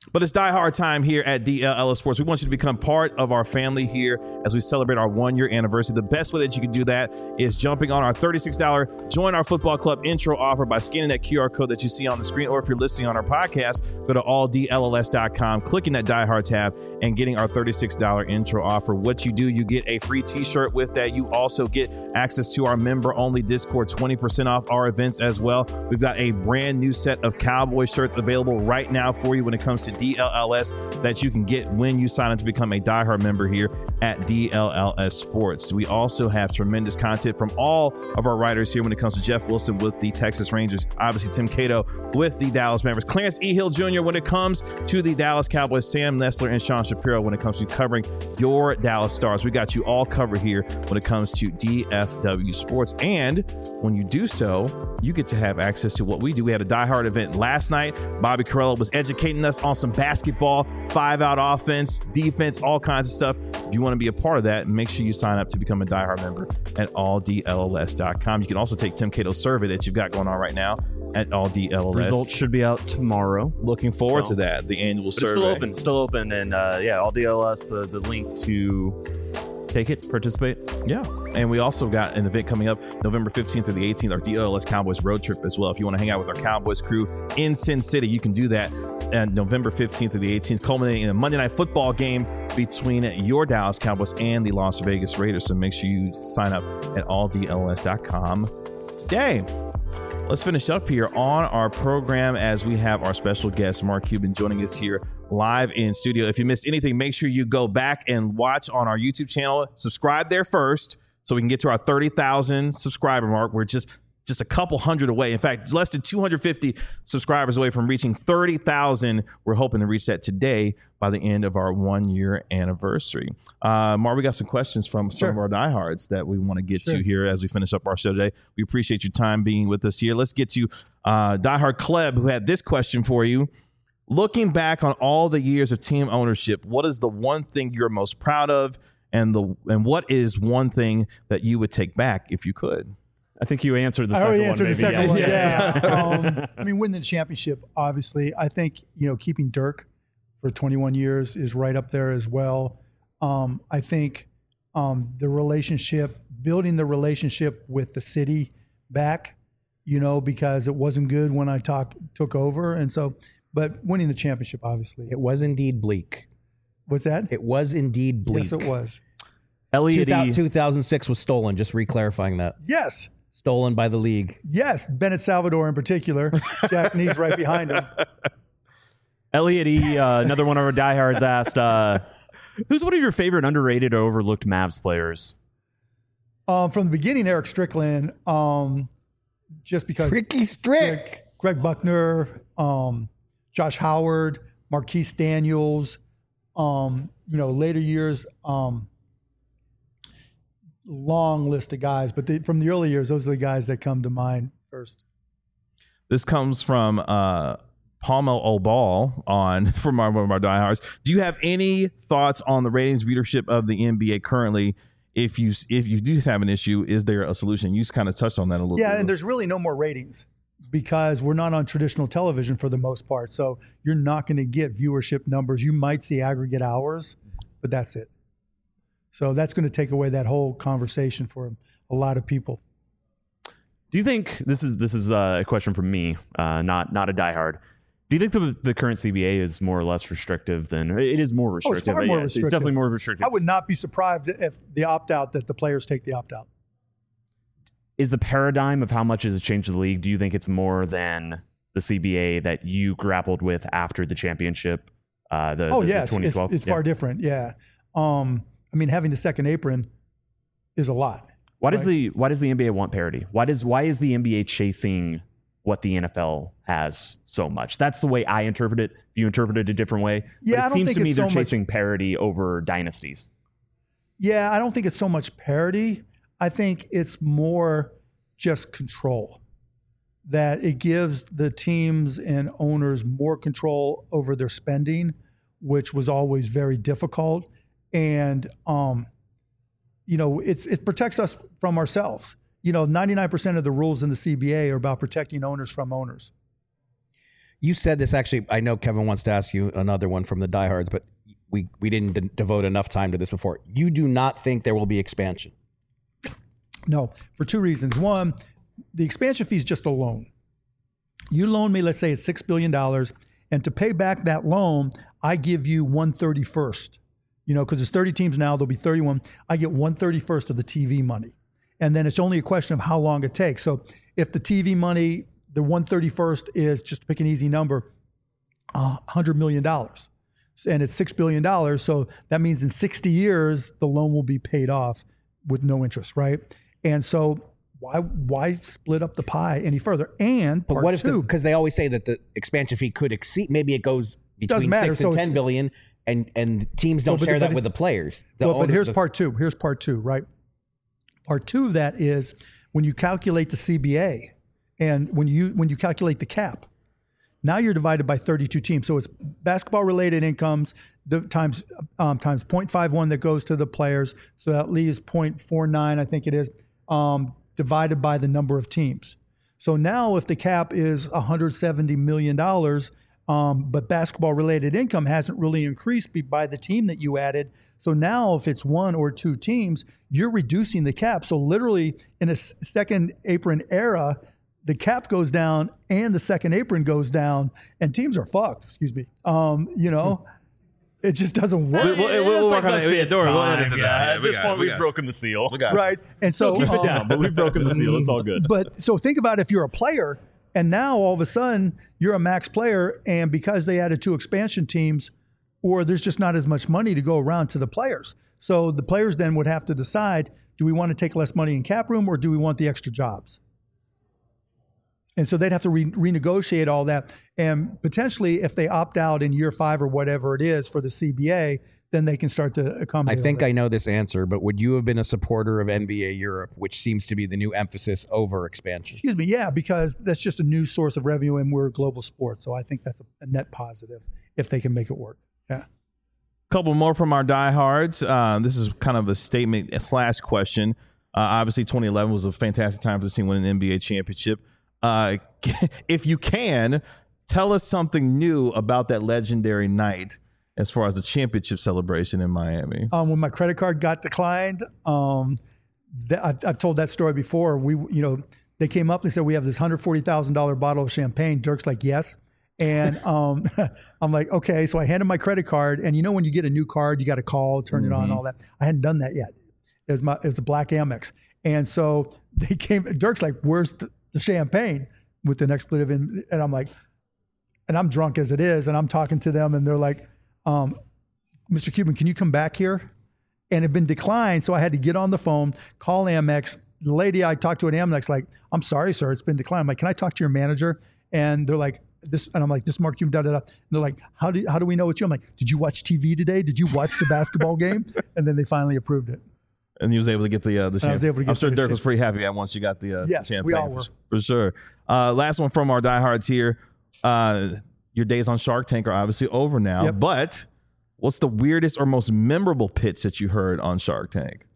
But it's Die Hard time here at D L L S Sports. We want you to become part of our family here as we celebrate our one-year anniversary. The best way that you can do that is jumping on our thirty-six dollars Join Our Football Club intro offer by scanning that Q R code that you see on the screen, or if you're listening on our podcast, go to all D L L S dot com, clicking that Die Hard tab, and getting our thirty-six dollars intro offer. What you do, you get a free t-shirt with that. You also get access to our member-only Discord, twenty percent off our events as well. We've got a brand new set of Cowboy shirts available right now for you when it comes to D L L S that you can get when you sign up to become a Die Hard member here at D L L S Sports. We also have tremendous content from all of our writers here when it comes to Jeff Wilson with the Texas Rangers, obviously Tim Cato with the Dallas Mavericks, Clarence E. Hill Junior when it comes to the Dallas Cowboys, Sam Nestler and Sean Shapiro when it comes to covering your Dallas Stars. We got you all covered here when it comes to D F W Sports. And when you do so, you get to have access to what we do. We had a Die Hard event last night. Bobby Carrello was educating us on some basketball, five-out offense, defense, all kinds of stuff. If you want to be a part of that, make sure you sign up to become a Die Hard member at all D L L S dot com. You can also take Tim Cato's survey that you've got going on right now at all D L L S. Results should be out tomorrow. Looking forward so, to that, the annual but survey. It's still open, still open. And uh, yeah, all D L S, the, the link to take it, participate. Yeah. And we also got an event coming up November fifteenth through the eighteenth, our D L L S Cowboys road trip as well. If you want to hang out with our Cowboys crew in Sin City, you can do that at November fifteenth through the eighteenth, culminating in a Monday Night Football game between your Dallas Cowboys and the Las Vegas Raiders. So make sure you sign up at all D L S dot com today. Let's finish up here on our program as we have our special guest, Mark Cuban, joining us here live in studio. If you missed anything, make sure you go back and watch on our YouTube channel. Subscribe there first so we can get to our thirty thousand subscriber mark. We're just just a couple hundred away. In fact, less than two hundred fifty subscribers away from reaching thirty thousand. We're hoping to reach that today by the end of our one-year anniversary. Uh, Mark, we got some questions from some Sure. of our diehards that we want to get Sure. to here as we finish up our show today. We appreciate your time being with us here. Let's get to uh, diehard Kleb, who had this question for you. Looking back on all the years of team ownership, what is the one thing you're most proud of, and the and what is one thing that you would take back if you could? I think you answered the I second already one. answered the maybe. second one. Yeah. Yeah. um, I mean, winning the championship, obviously. I think, you know, keeping Dirk for twenty-one years is right up there as well. Um, I think um, the relationship, building the relationship with the city back, you know, because it wasn't good when I talk, took over. And so, but winning the championship, obviously. It was indeed bleak. What's that? It was indeed bleak. Yes, it was. Elliot E. two thousand six was stolen, just re-clarifying that. Yes. Stolen by the league. Yes. Bennett Salvador in particular. Jack Nee's right behind him. Elliot E., uh, another one of our diehards, asked, uh, who's one of your favorite underrated or overlooked Mavs players? Um, from the beginning, Eric Strickland, um, just because Ricky Strick. Greg Buckner, um, Josh Howard, Marquise Daniels, um, you know, later years, um, long list of guys, but they, from the early years, those are the guys that come to mind first. This comes from uh, Palmel Obal on from our, one of our diehards. Do you have any thoughts on the ratings viewership of the N B A currently? If you if you do have an issue, is there a solution? You just kind of touched on that a little Yeah, bit. and there's really no more ratings because we're not on traditional television for the most part. So you're not going to get viewership numbers. You might see aggregate hours, but that's it. So that's going to take away that whole conversation for a lot of people. Do you think this is this is uh, a question from me, uh, not not a diehard? Do you think the the current C B A is more or less restrictive than it is more restrictive? Oh, it's far but more yeah, restrictive. It's definitely more restrictive. I would not be surprised if the opt-out, that the players take the opt-out. Is the paradigm of how much has changed the league? Do you think it's more than the C B A that you grappled with after the championship? Uh, the, Oh, the, yes, the twenty it's, twelve. it's Yeah. far different, yeah. Um, I mean, having the second apron is a lot. Why does Right. the why does the N B A want parity? Why does why is the N B A chasing what the N F L has so much? That's the way I interpret it. You interpret it a different way. Yeah, but it I don't seems think to me it's they're so much- chasing parity over dynasties. Yeah, I don't think it's so much parity. I think it's more just control. That it gives the teams and owners more control over their spending, which was always very difficult. And, um, you know, it's it protects us from ourselves. You know, ninety-nine percent of the rules in the C B A are about protecting owners from owners. You said this actually. I know Kevin wants to ask you another one from the diehards, but we we didn't de- devote enough time to this before. You do not think there will be expansion? No, for two reasons. One, the expansion fee is just a loan. You loan me, let's say it's six billion dollars, and to pay back that loan, I give you one thirty-first. You know, because there's thirty teams now, there'll be thirty-one. I get one thirty-first of the T V money. And then it's only a question of how long it takes. So if the T V money, the one thirty-first is, just to pick an easy number, one hundred million dollars. And it's six billion dollars. So that means in sixty years, the loan will be paid off with no interest, right? And so why why split up the pie any further? And But part what if two, because they always say that the expansion fee could exceed, maybe it goes between matter. six So and it's- ten billion, and and teams don't but- share but that it- with the players. The Well, but owner- here's the- part two. Here's part two, right? Part two of that is when you calculate the C B A and when you when you calculate the cap, now you're divided by thirty-two teams. So it's basketball related incomes the, times um, times zero point five one that goes to the players. So that leaves zero point four nine, I think it is, um, divided by the number of teams. So now if the cap is one hundred seventy million dollars, um, but basketball related income hasn't really increased be- by the team that you added. So now if it's one or two teams, you're reducing the cap. So literally in a s- second apron era, the cap goes down and the second apron goes down and teams are fucked, excuse me. Um, you know, it just doesn't work. We'll, we'll, we'll work on it. Yeah, Dory, we'll edit it Yeah, out. at Yeah, we this got it, point, we we've got it. broken the seal. We got it. Right. And so Keep it um, down, but we've broken the seal. It's all good. But so think about if you're a player and now all of a sudden you're a max player, and because they added two expansion teams, or there's just not as much money to go around to the players. So the players then would have to decide, do we want to take less money in cap room or do we want the extra jobs? And so they'd have to re- renegotiate all that. And potentially if they opt out in year five or whatever it is for the C B A, then they can start to I accommodate. think all I know this answer, but would you have been a supporter of N B A Europe, which seems to be the new emphasis over expansion? Excuse me, yeah, because that's just a new source of revenue and we're a global sport. So I think that's a, a net positive if they can make it work. Yeah. Couple more from our diehards. Uh, this is kind of a statement slash question. Uh, obviously, twenty eleven was a fantastic time for the team winning an N B A championship. Uh, if you can, tell us something new about that legendary night as far as the championship celebration in Miami. Um, when my credit card got declined, um, th- I've, I've told that story before. We, you know, they came up and said, we have this one hundred forty thousand dollars bottle of champagne. Dirk's like, yes. And um, I'm like, okay. So I handed my credit card. And you know, when you get a new card, you got to call, turn mm-hmm. it on, all that. I hadn't done that yet. It was, my, it was a black Amex. And so they came, Dirk's like, where's the, the champagne with an expletive in? And I'm like, and I'm drunk as it is. And I'm talking to them and they're like, um, Mister Cuban, can you come back here? And it had been declined. So I had to get on the phone, call Amex. The lady I talked to at Amex, like, I'm sorry, sir, it's been declined. I'm like, can I talk to your manager? And they're like, this, and I'm like, this Mark Cuban, da da da. And they're like, how do how do we know it's you? I'm like, did you watch T V today? Did you watch the basketball game? And then they finally approved it. And he was able to get the uh, the And I was champagne. able to get I'm sure the Dirk was champagne. pretty happy at once you got the uh, Yes, champagne. we all were. For, for sure. Uh, last one from our diehards here. Uh, your days on Shark Tank are obviously over now, Yep. but what's the weirdest or most memorable pitch that you heard on Shark Tank?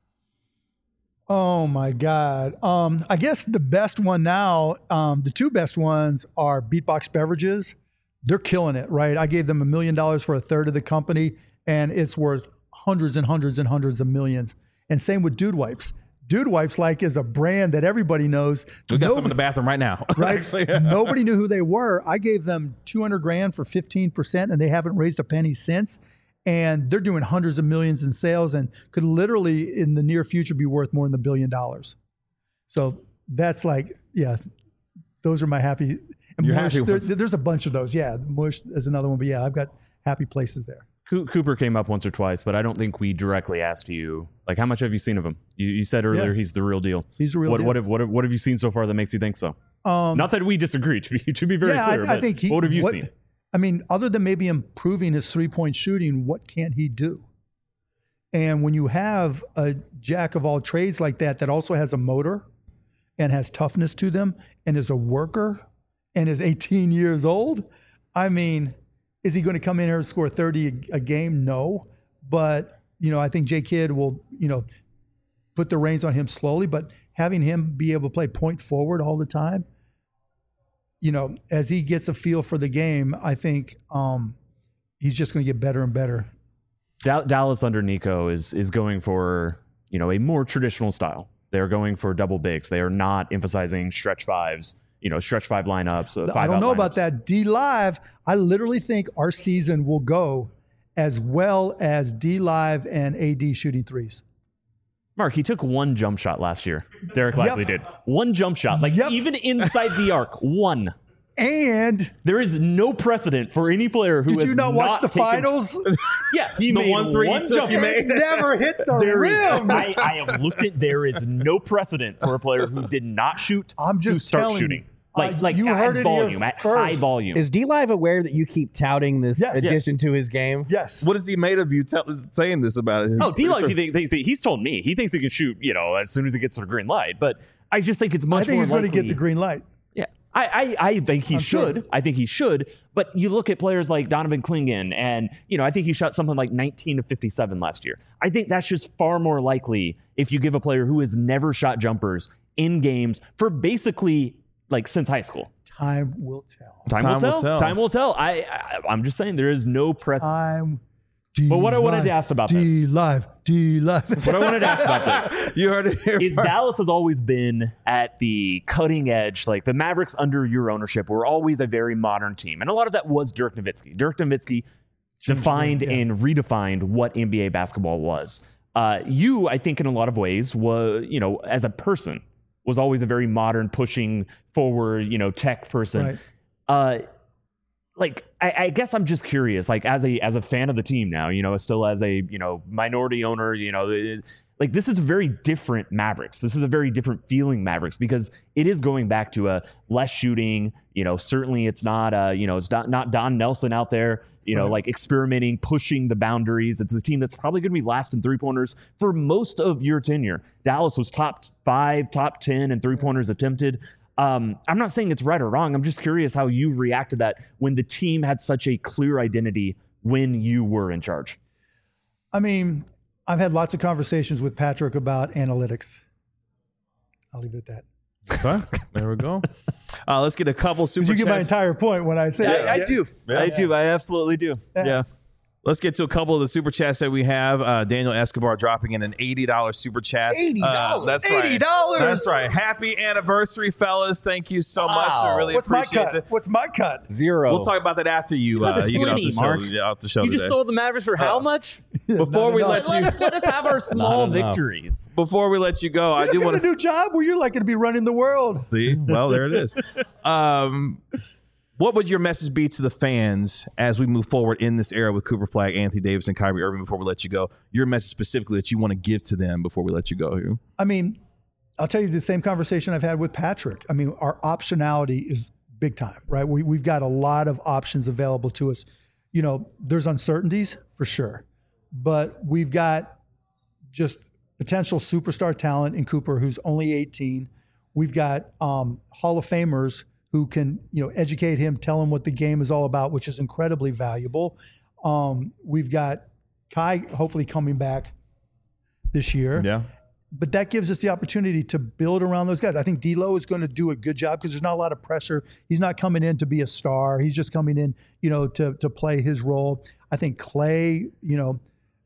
Oh my God. Um, I guess the best one now, um, the two best ones are Beatbox Beverages. They're killing it, right? I gave them a million dollars for a third of the company, and it's worth hundreds and hundreds and hundreds of millions. And same with Dude Wipes. Dude Wipes, like, is a brand that everybody knows. We got Nobody- some in the bathroom right now. right? Actually. Nobody knew who they were. I gave them two hundred grand for fifteen percent, and they haven't raised a penny since. And they're doing hundreds of millions in sales and could literally in the near future be worth more than a billion dollars. So that's like, yeah, those are my happy. And Your Mush, happy there, ones. there's a bunch of those. Yeah, Mush is another one, but yeah, I've got happy places there. Co- Cooper came up once or twice, but I don't think we directly asked you, like, how much have you seen of him? You, you said earlier Yeah. he's the real deal. He's the real what, deal. What have, what, have, what have you seen so far that makes you think so? Um, Not that we disagree, to be, to be very yeah, clear. I, I but think he. what have you seen? I mean, other than maybe improving his three-point shooting, what can he do? And when you have a jack of all trades like that, that also has a motor and has toughness to them and is a worker and is eighteen years old, I mean, is he going to come in here and score thirty a, a game? No. But, you know, I think J Kidd will, you know, put the reins on him slowly, but having him be able to play point forward all the time, you know, as he gets a feel for the game, I think um, he's just going to get better and better. Dallas under Nico is is going for, you know, a more traditional style. They're going for double bigs. They are not emphasizing stretch fives, you know, stretch five lineups. Uh, five I don't know lineups. about that. D Live, I literally think our season will go as well as D Live and A D shooting threes. Mark, he took one jump shot last year. Derek Lively Yep. did. One jump shot. Like, Yep. even inside the arc, one. And There is no precedent for any player who did has you not watch the taken- finals? Yeah, he The made one three he took, jump he shot. made. It never hit the There is- rim. I, I have looked at. There is no precedent for a player who did not shoot I'm just to start telling shooting. you. Like, Uh, like you at heard it here volume, at high first. volume. Is D Live aware that you keep touting this Yes. addition to his game? Yes. What is he made of you tell, saying this about it? Oh, D-Lo, he think, thinks, he's told me he thinks he can shoot, you know, as soon as he gets to the green light. But I just think it's much I think more he's going to likely- get the green light. Yeah, I, I, I think he I'm should. sure. I think he should. But you look at players like Donovan Clingan, and you know, I think he shot something like nineteen to fifty-seven last year. I think that's just far more likely if you give a player who has never shot jumpers in games for basically like since high school. Time will tell. Time, Time will, tell. will tell. Time will tell. I, I, I'm just saying there is no precedent. Time. But what I wanted to ask about D Live. D Live. What I wanted to ask about this You heard it here is first. Dallas has always been at the cutting edge. Like the Mavericks under your ownership were always a very modern team. And a lot of that was Dirk Nowitzki. Dirk Nowitzki defined the game, and redefined what N B A basketball was. Uh, you, I think in a lot of ways, was, you know, as a person, was always a very modern, pushing forward, you know, tech person. Right. Uh, like I, I guess I'm just curious, like as a as a fan of the team now, you know, still as a you know minority owner, you know, it, like this is a very different Mavericks. This is a very different feeling Mavericks because it is going back to a less shooting. You know, certainly it's not uh you know it's not not Don Nelson out there, you know, Right. like experimenting, pushing the boundaries. It's a team that's probably going to be last in three pointers for most of your tenure. Dallas was top five, top ten in three pointers attempted. Um, I'm not saying it's right or wrong. I'm just curious how you react to that when the team had such a clear identity when you were in charge. I mean, I've had lots of conversations with Patrick about analytics. I'll leave it at that. Okay, there we go. Uh, let's get a couple super Did you get my chats. entire point when I say I, I yeah. do. Yeah. I do. I absolutely do. Yeah. Yeah. Let's get to a couple of the super chats that we have. Uh, Daniel Escobar dropping in an eighty dollars super chat. eighty dollars? Uh, that's eighty right. dollars. That's right. Happy anniversary, fellas. Thank you so much. Wow. I really What's my appreciate cut? it. Wast my cut? Zero. We'll talk about that after you uh, you get off the plenty, show. Mark. Yeah, off the show You today. just sold the Mavericks for how much? Before Not we enough. let Let you us let us have our small Not enough. victories. before we let you go, I You do just got want a new job where you're like going to be running the world. see. Well, there it is. Um, what would your message be to the fans as we move forward in this era with Cooper Flagg, Anthony Davis, and Kyrie Irving? Before we let you go, your message specifically that you want to give to them before we let you go here. I mean, I'll tell you the same conversation I've had with Patrick. I mean, our optionality is big time, right? We, we've got a lot of options available to us. You know, there's uncertainties for sure, but we've got just potential superstar talent in Cooper, who's only eighteen. We've got um, Hall of Famers who can, you know, educate him, tell him what the game is all about, which is incredibly valuable. Um, we've got Kai hopefully coming back this year. Yeah. But that gives us the opportunity to build around those guys. I think D'Lo is going to do a good job because there's not a lot of pressure. He's not coming in to be a star. He's just coming in, you know, to to play his role. I think Clay, you know,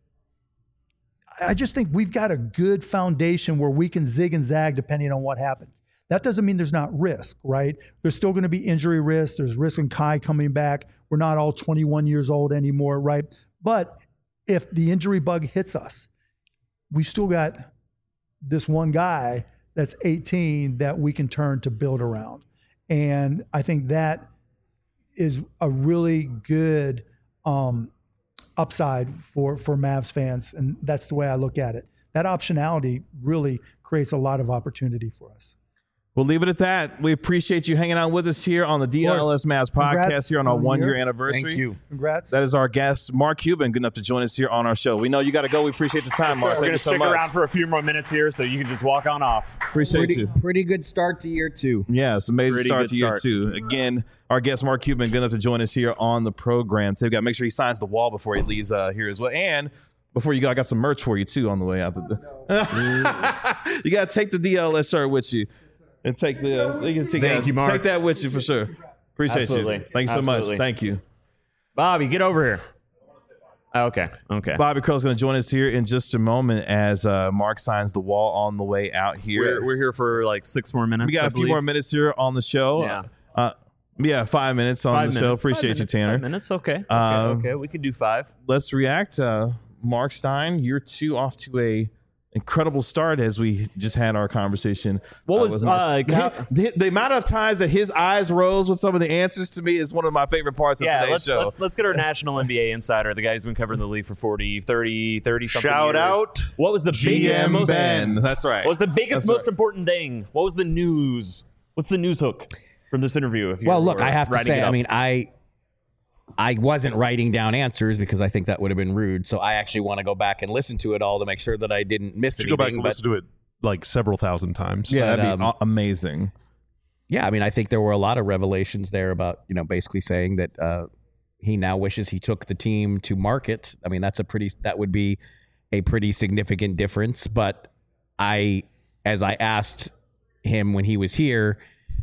I just think we've got a good foundation where we can zig and zag depending on what happens. That doesn't mean there's not risk, right? There's still going to be injury risk. There's risk in Kai coming back. We're not all twenty-one years old anymore, right? But if the injury bug hits us, we still got this one guy that's eighteen that we can turn to build around. And I think that is a really good um, upside for, for Mavs fans. And that's the way I look at it. That optionality really creates a lot of opportunity for us. We'll leave it at that. We appreciate you hanging out with us here on the D L S Mavs podcast Congrats here on our on one year your- anniversary. Thank you. Congrats. That is our guest, Mark Cuban, good enough to join us here on our show. We know you got to go. We appreciate the time, Mark. We're Thank going you to so stick much. around for a few more minutes here so you can just walk on off. Appreciate Pretty, you. pretty good start to year two. Yeah, it's an amazing Pretty start good to year start. two. Again, our guest, Mark Cuban, good enough to join us here on the program. So we got to make sure he signs the wall before he leaves uh, here as well. And before you go, I got some merch for you, too, on the way out. The you got to take the D L S shirt with you. And take the, you can take, Thank that, you, Mark. take that with you for sure. Appreciate Absolutely. you. Thanks so Absolutely. much. Thank you. Bobby, get over here. Okay. Okay. Bobby Curl's going to join us here in just a moment as uh, Mark signs the wall on the way out here. We're, we're here for like six more minutes. we got I a few believe. more minutes here on the show. Yeah. Uh, yeah, five minutes on Five the minutes. show. Five Appreciate you, minutes, Tanner. Five minutes. Okay. Okay. Um, okay. We can do five. Let's react. Uh, Mark Stein, you're two off to a incredible start as we just had our conversation. What uh, was with Mark. uh, how, the, the amount of times that his eyes rose with some of the answers to me is one of my favorite parts of yeah, today's let's, show. let's let's get our national N B A insider, the guy who's been covering the league for forty, thirty, thirty something Shout years. out What was the G biggest M most Ben. That's right. What was the biggest That's most right. important thing? What was the news? What's the news hook from this interview? If you Well, look, were I have to writing say, it I up? mean, I I wasn't writing down answers because I think that would have been rude. So I actually want to go back and listen to it all to make sure that I didn't miss You anything. go back and but- listen to it like several thousand times. Yeah, But, that'd be um, a- amazing. Yeah, I mean, I think there were a lot of revelations there about, you know, basically saying that uh, he now wishes he took the team to market. I mean, that's a pretty, that would be a pretty significant difference. But I, as I asked him when he was here,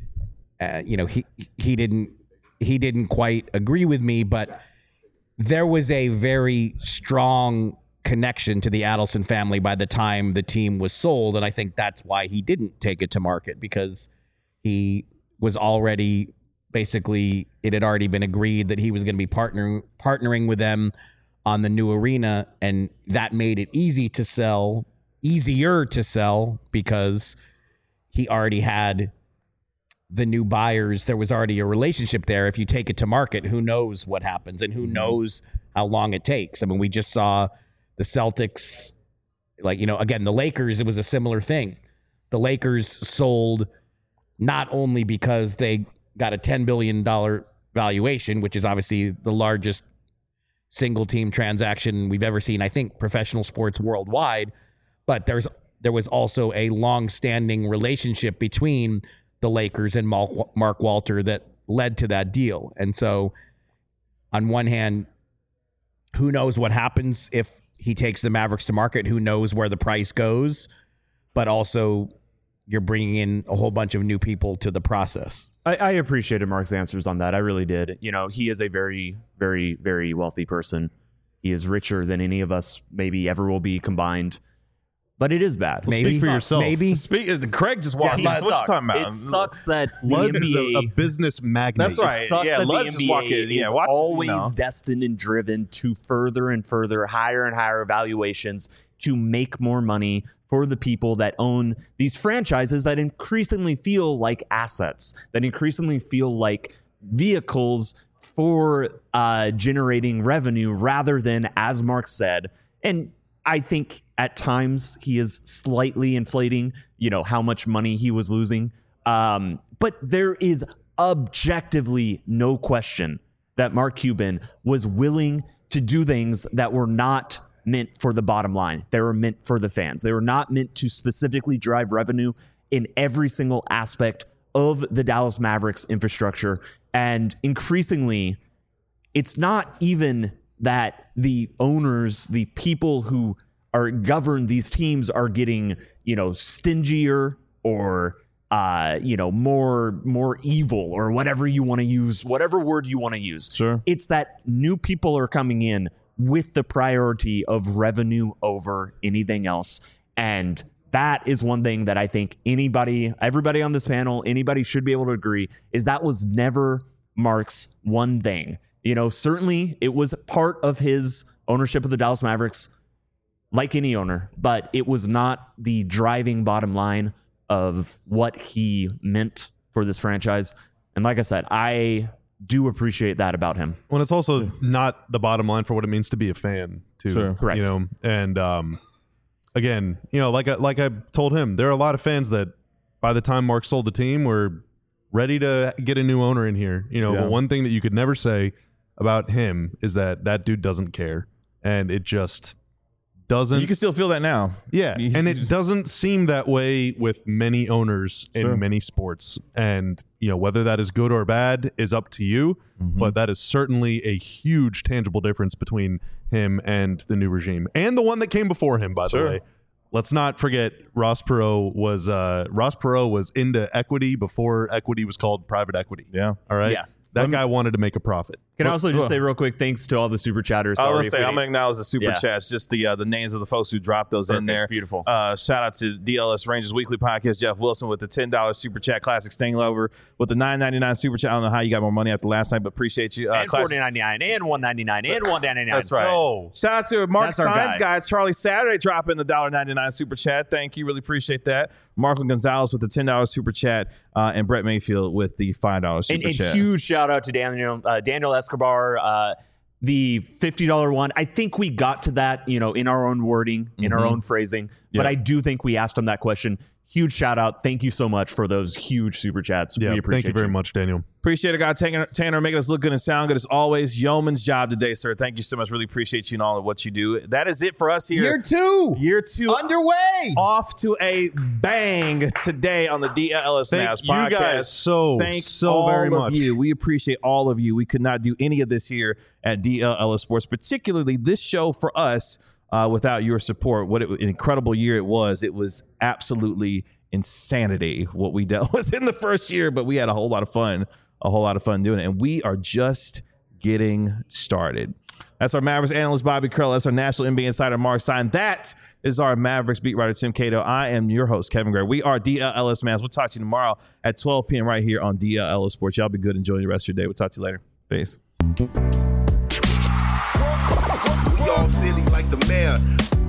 uh, you know, he he didn't he didn't quite agree with me, but there was a very strong connection to the Adelson family by the time the team was sold, and I think that's why he didn't take it to market, because he was already basically, it had already been agreed that he was going to be partnering partnering with them on the new arena, and that made it easy to sell, easier to sell, because he already had the new buyers. There was already a relationship there. If you take it to market, who knows what happens and who knows how long it takes. I mean, we just saw the Celtics, like, you know, again, the Lakers, it was a similar thing. The Lakers sold not only because they got a ten billion dollars valuation, which is obviously the largest single team transaction we've ever seen, I think, professional sports worldwide, but there's there was also a long-standing relationship between the Lakers and Mark Walter that led to that deal. And so on one hand, who knows what happens if he takes the Mavericks to market, who knows where the price goes, but also you're bringing in a whole bunch of new people to the process. I, I appreciated Mark's answers on that. I really did. You know, he is a very, very, very wealthy person. He is richer than any of us maybe ever will be combined. But it is bad. Maybe for yourself. Maybe. Speak, uh, Craig just Yeah, walked he by. What you sucks. talking about? It sucks that the Luds N is a, B a A business magnate. That's right. It sucks Yeah, that Lutz the just N B A walk in. is Yeah, watch, you always know. destined and driven to further and further, higher and higher valuations to make more money for the people that own these franchises that increasingly feel like assets, that increasingly feel like vehicles for uh, generating revenue rather than, as Mark said, and I think at times he is slightly inflating, you know, how much money he was losing. Um, but there is objectively no question that Mark Cuban was willing to do things that were not meant for the bottom line. They were meant for the fans. They were not meant to specifically drive revenue in every single aspect of the Dallas Mavericks infrastructure. And increasingly, it's not even that the owners, the people who are govern these teams are getting, you know, stingier or, uh, you know, more, more evil or whatever you want to use, whatever word you want to use. Sure. It's that new people are coming in with the priority of revenue over anything else. And that is one thing that I think anybody, everybody on this panel, anybody should be able to agree is that was never Mark's one thing. You know, certainly it was part of his ownership of the Dallas Mavericks, like any owner, but it was not the driving bottom line of what he meant for this franchise. And like I said, I do appreciate that about him. Well, it's also not the bottom line for what it means to be a fan, too. Sure. Correct. You know, and um, again, you know, like I, like I told him, there are a lot of fans that by the time Mark sold the team were ready to get a new owner in here. You know, Yeah. but one thing that you could never say about him is that that dude doesn't care, and it just doesn't. You can still feel that now. Yeah, You- and it doesn't seem that way with many owners in Sure. many sports. And, you know, whether that is good or bad is up to you, Mm-hmm. but that is certainly a huge tangible difference between him and the new regime. And the one that came before him, by Sure. the way. let's not forget Ross Perot was uh, Ross Perot was into equity before equity was called private equity. Yeah. All right. Yeah. That me- guy wanted to make a profit. Can I Well, also just well. say real quick, thanks to all the super chatters. I Sorry was if gonna say, we I'm going to acknowledge the super Yeah. chats, just the uh, the names of the folks who dropped those in Perfect. there. Beautiful. Uh, shout out to D L S Rangers Weekly Podcast, Jeff Wilson with the ten dollars super chat, Classic Sting Lover with the nine ninety-nine super chat. I don't know how you got more money after last night, but appreciate you. Uh, and Classic- forty ninety-nine and one ninety-nine and one ninety-nine. That's right. Oh. Shout out to Mark That's our Signs guy. guy, Charlie Saturday dropping the one ninety-nine super chat. Thank you. Really appreciate that. Marco Gonzalez with the ten dollars super chat, uh, and Brett Mayfield with the five dollars super And, and chat. huge shout out to Daniel uh, Daniel Escobar, uh, the fifty dollars one. I think we got to that, you know, in our own wording, in our Mhm. own phrasing. Yeah. But I do think we asked him that question. Huge shout out. Thank you so much for those huge super chats. Yeah. we appreciate Thank you very much, Daniel. Appreciate it, God. Tanner, Tanner making us look good and sound good as always. Yeoman's job today, sir. Thank you so much. Really appreciate you and all of what you do. That is it for us here. Year two. Year two Underway. off to a bang today on the D L S Thank Mavs you podcast. guys so, Thank so all very of much. you. We appreciate all of you. We could not do any of this here at D L S Sports, particularly this show for us uh, without your support. What it, an incredible year it was. It was absolutely insanity what we dealt with in the first year, but we had a whole lot of fun, a whole lot of fun doing it. And we are just getting started. That's our Mavericks analyst, Bobby Curl. That's our national N B A insider, Mark Stein. That is our Mavericks beat writer, Tim Cato. I am your host, Kevin Gray. We are D L S Mavs. We'll talk to you tomorrow at twelve p.m. right here on D L S Sports. Y'all be good. Enjoy the rest of your day. We'll talk to you later. Peace. We all silly like the mayor.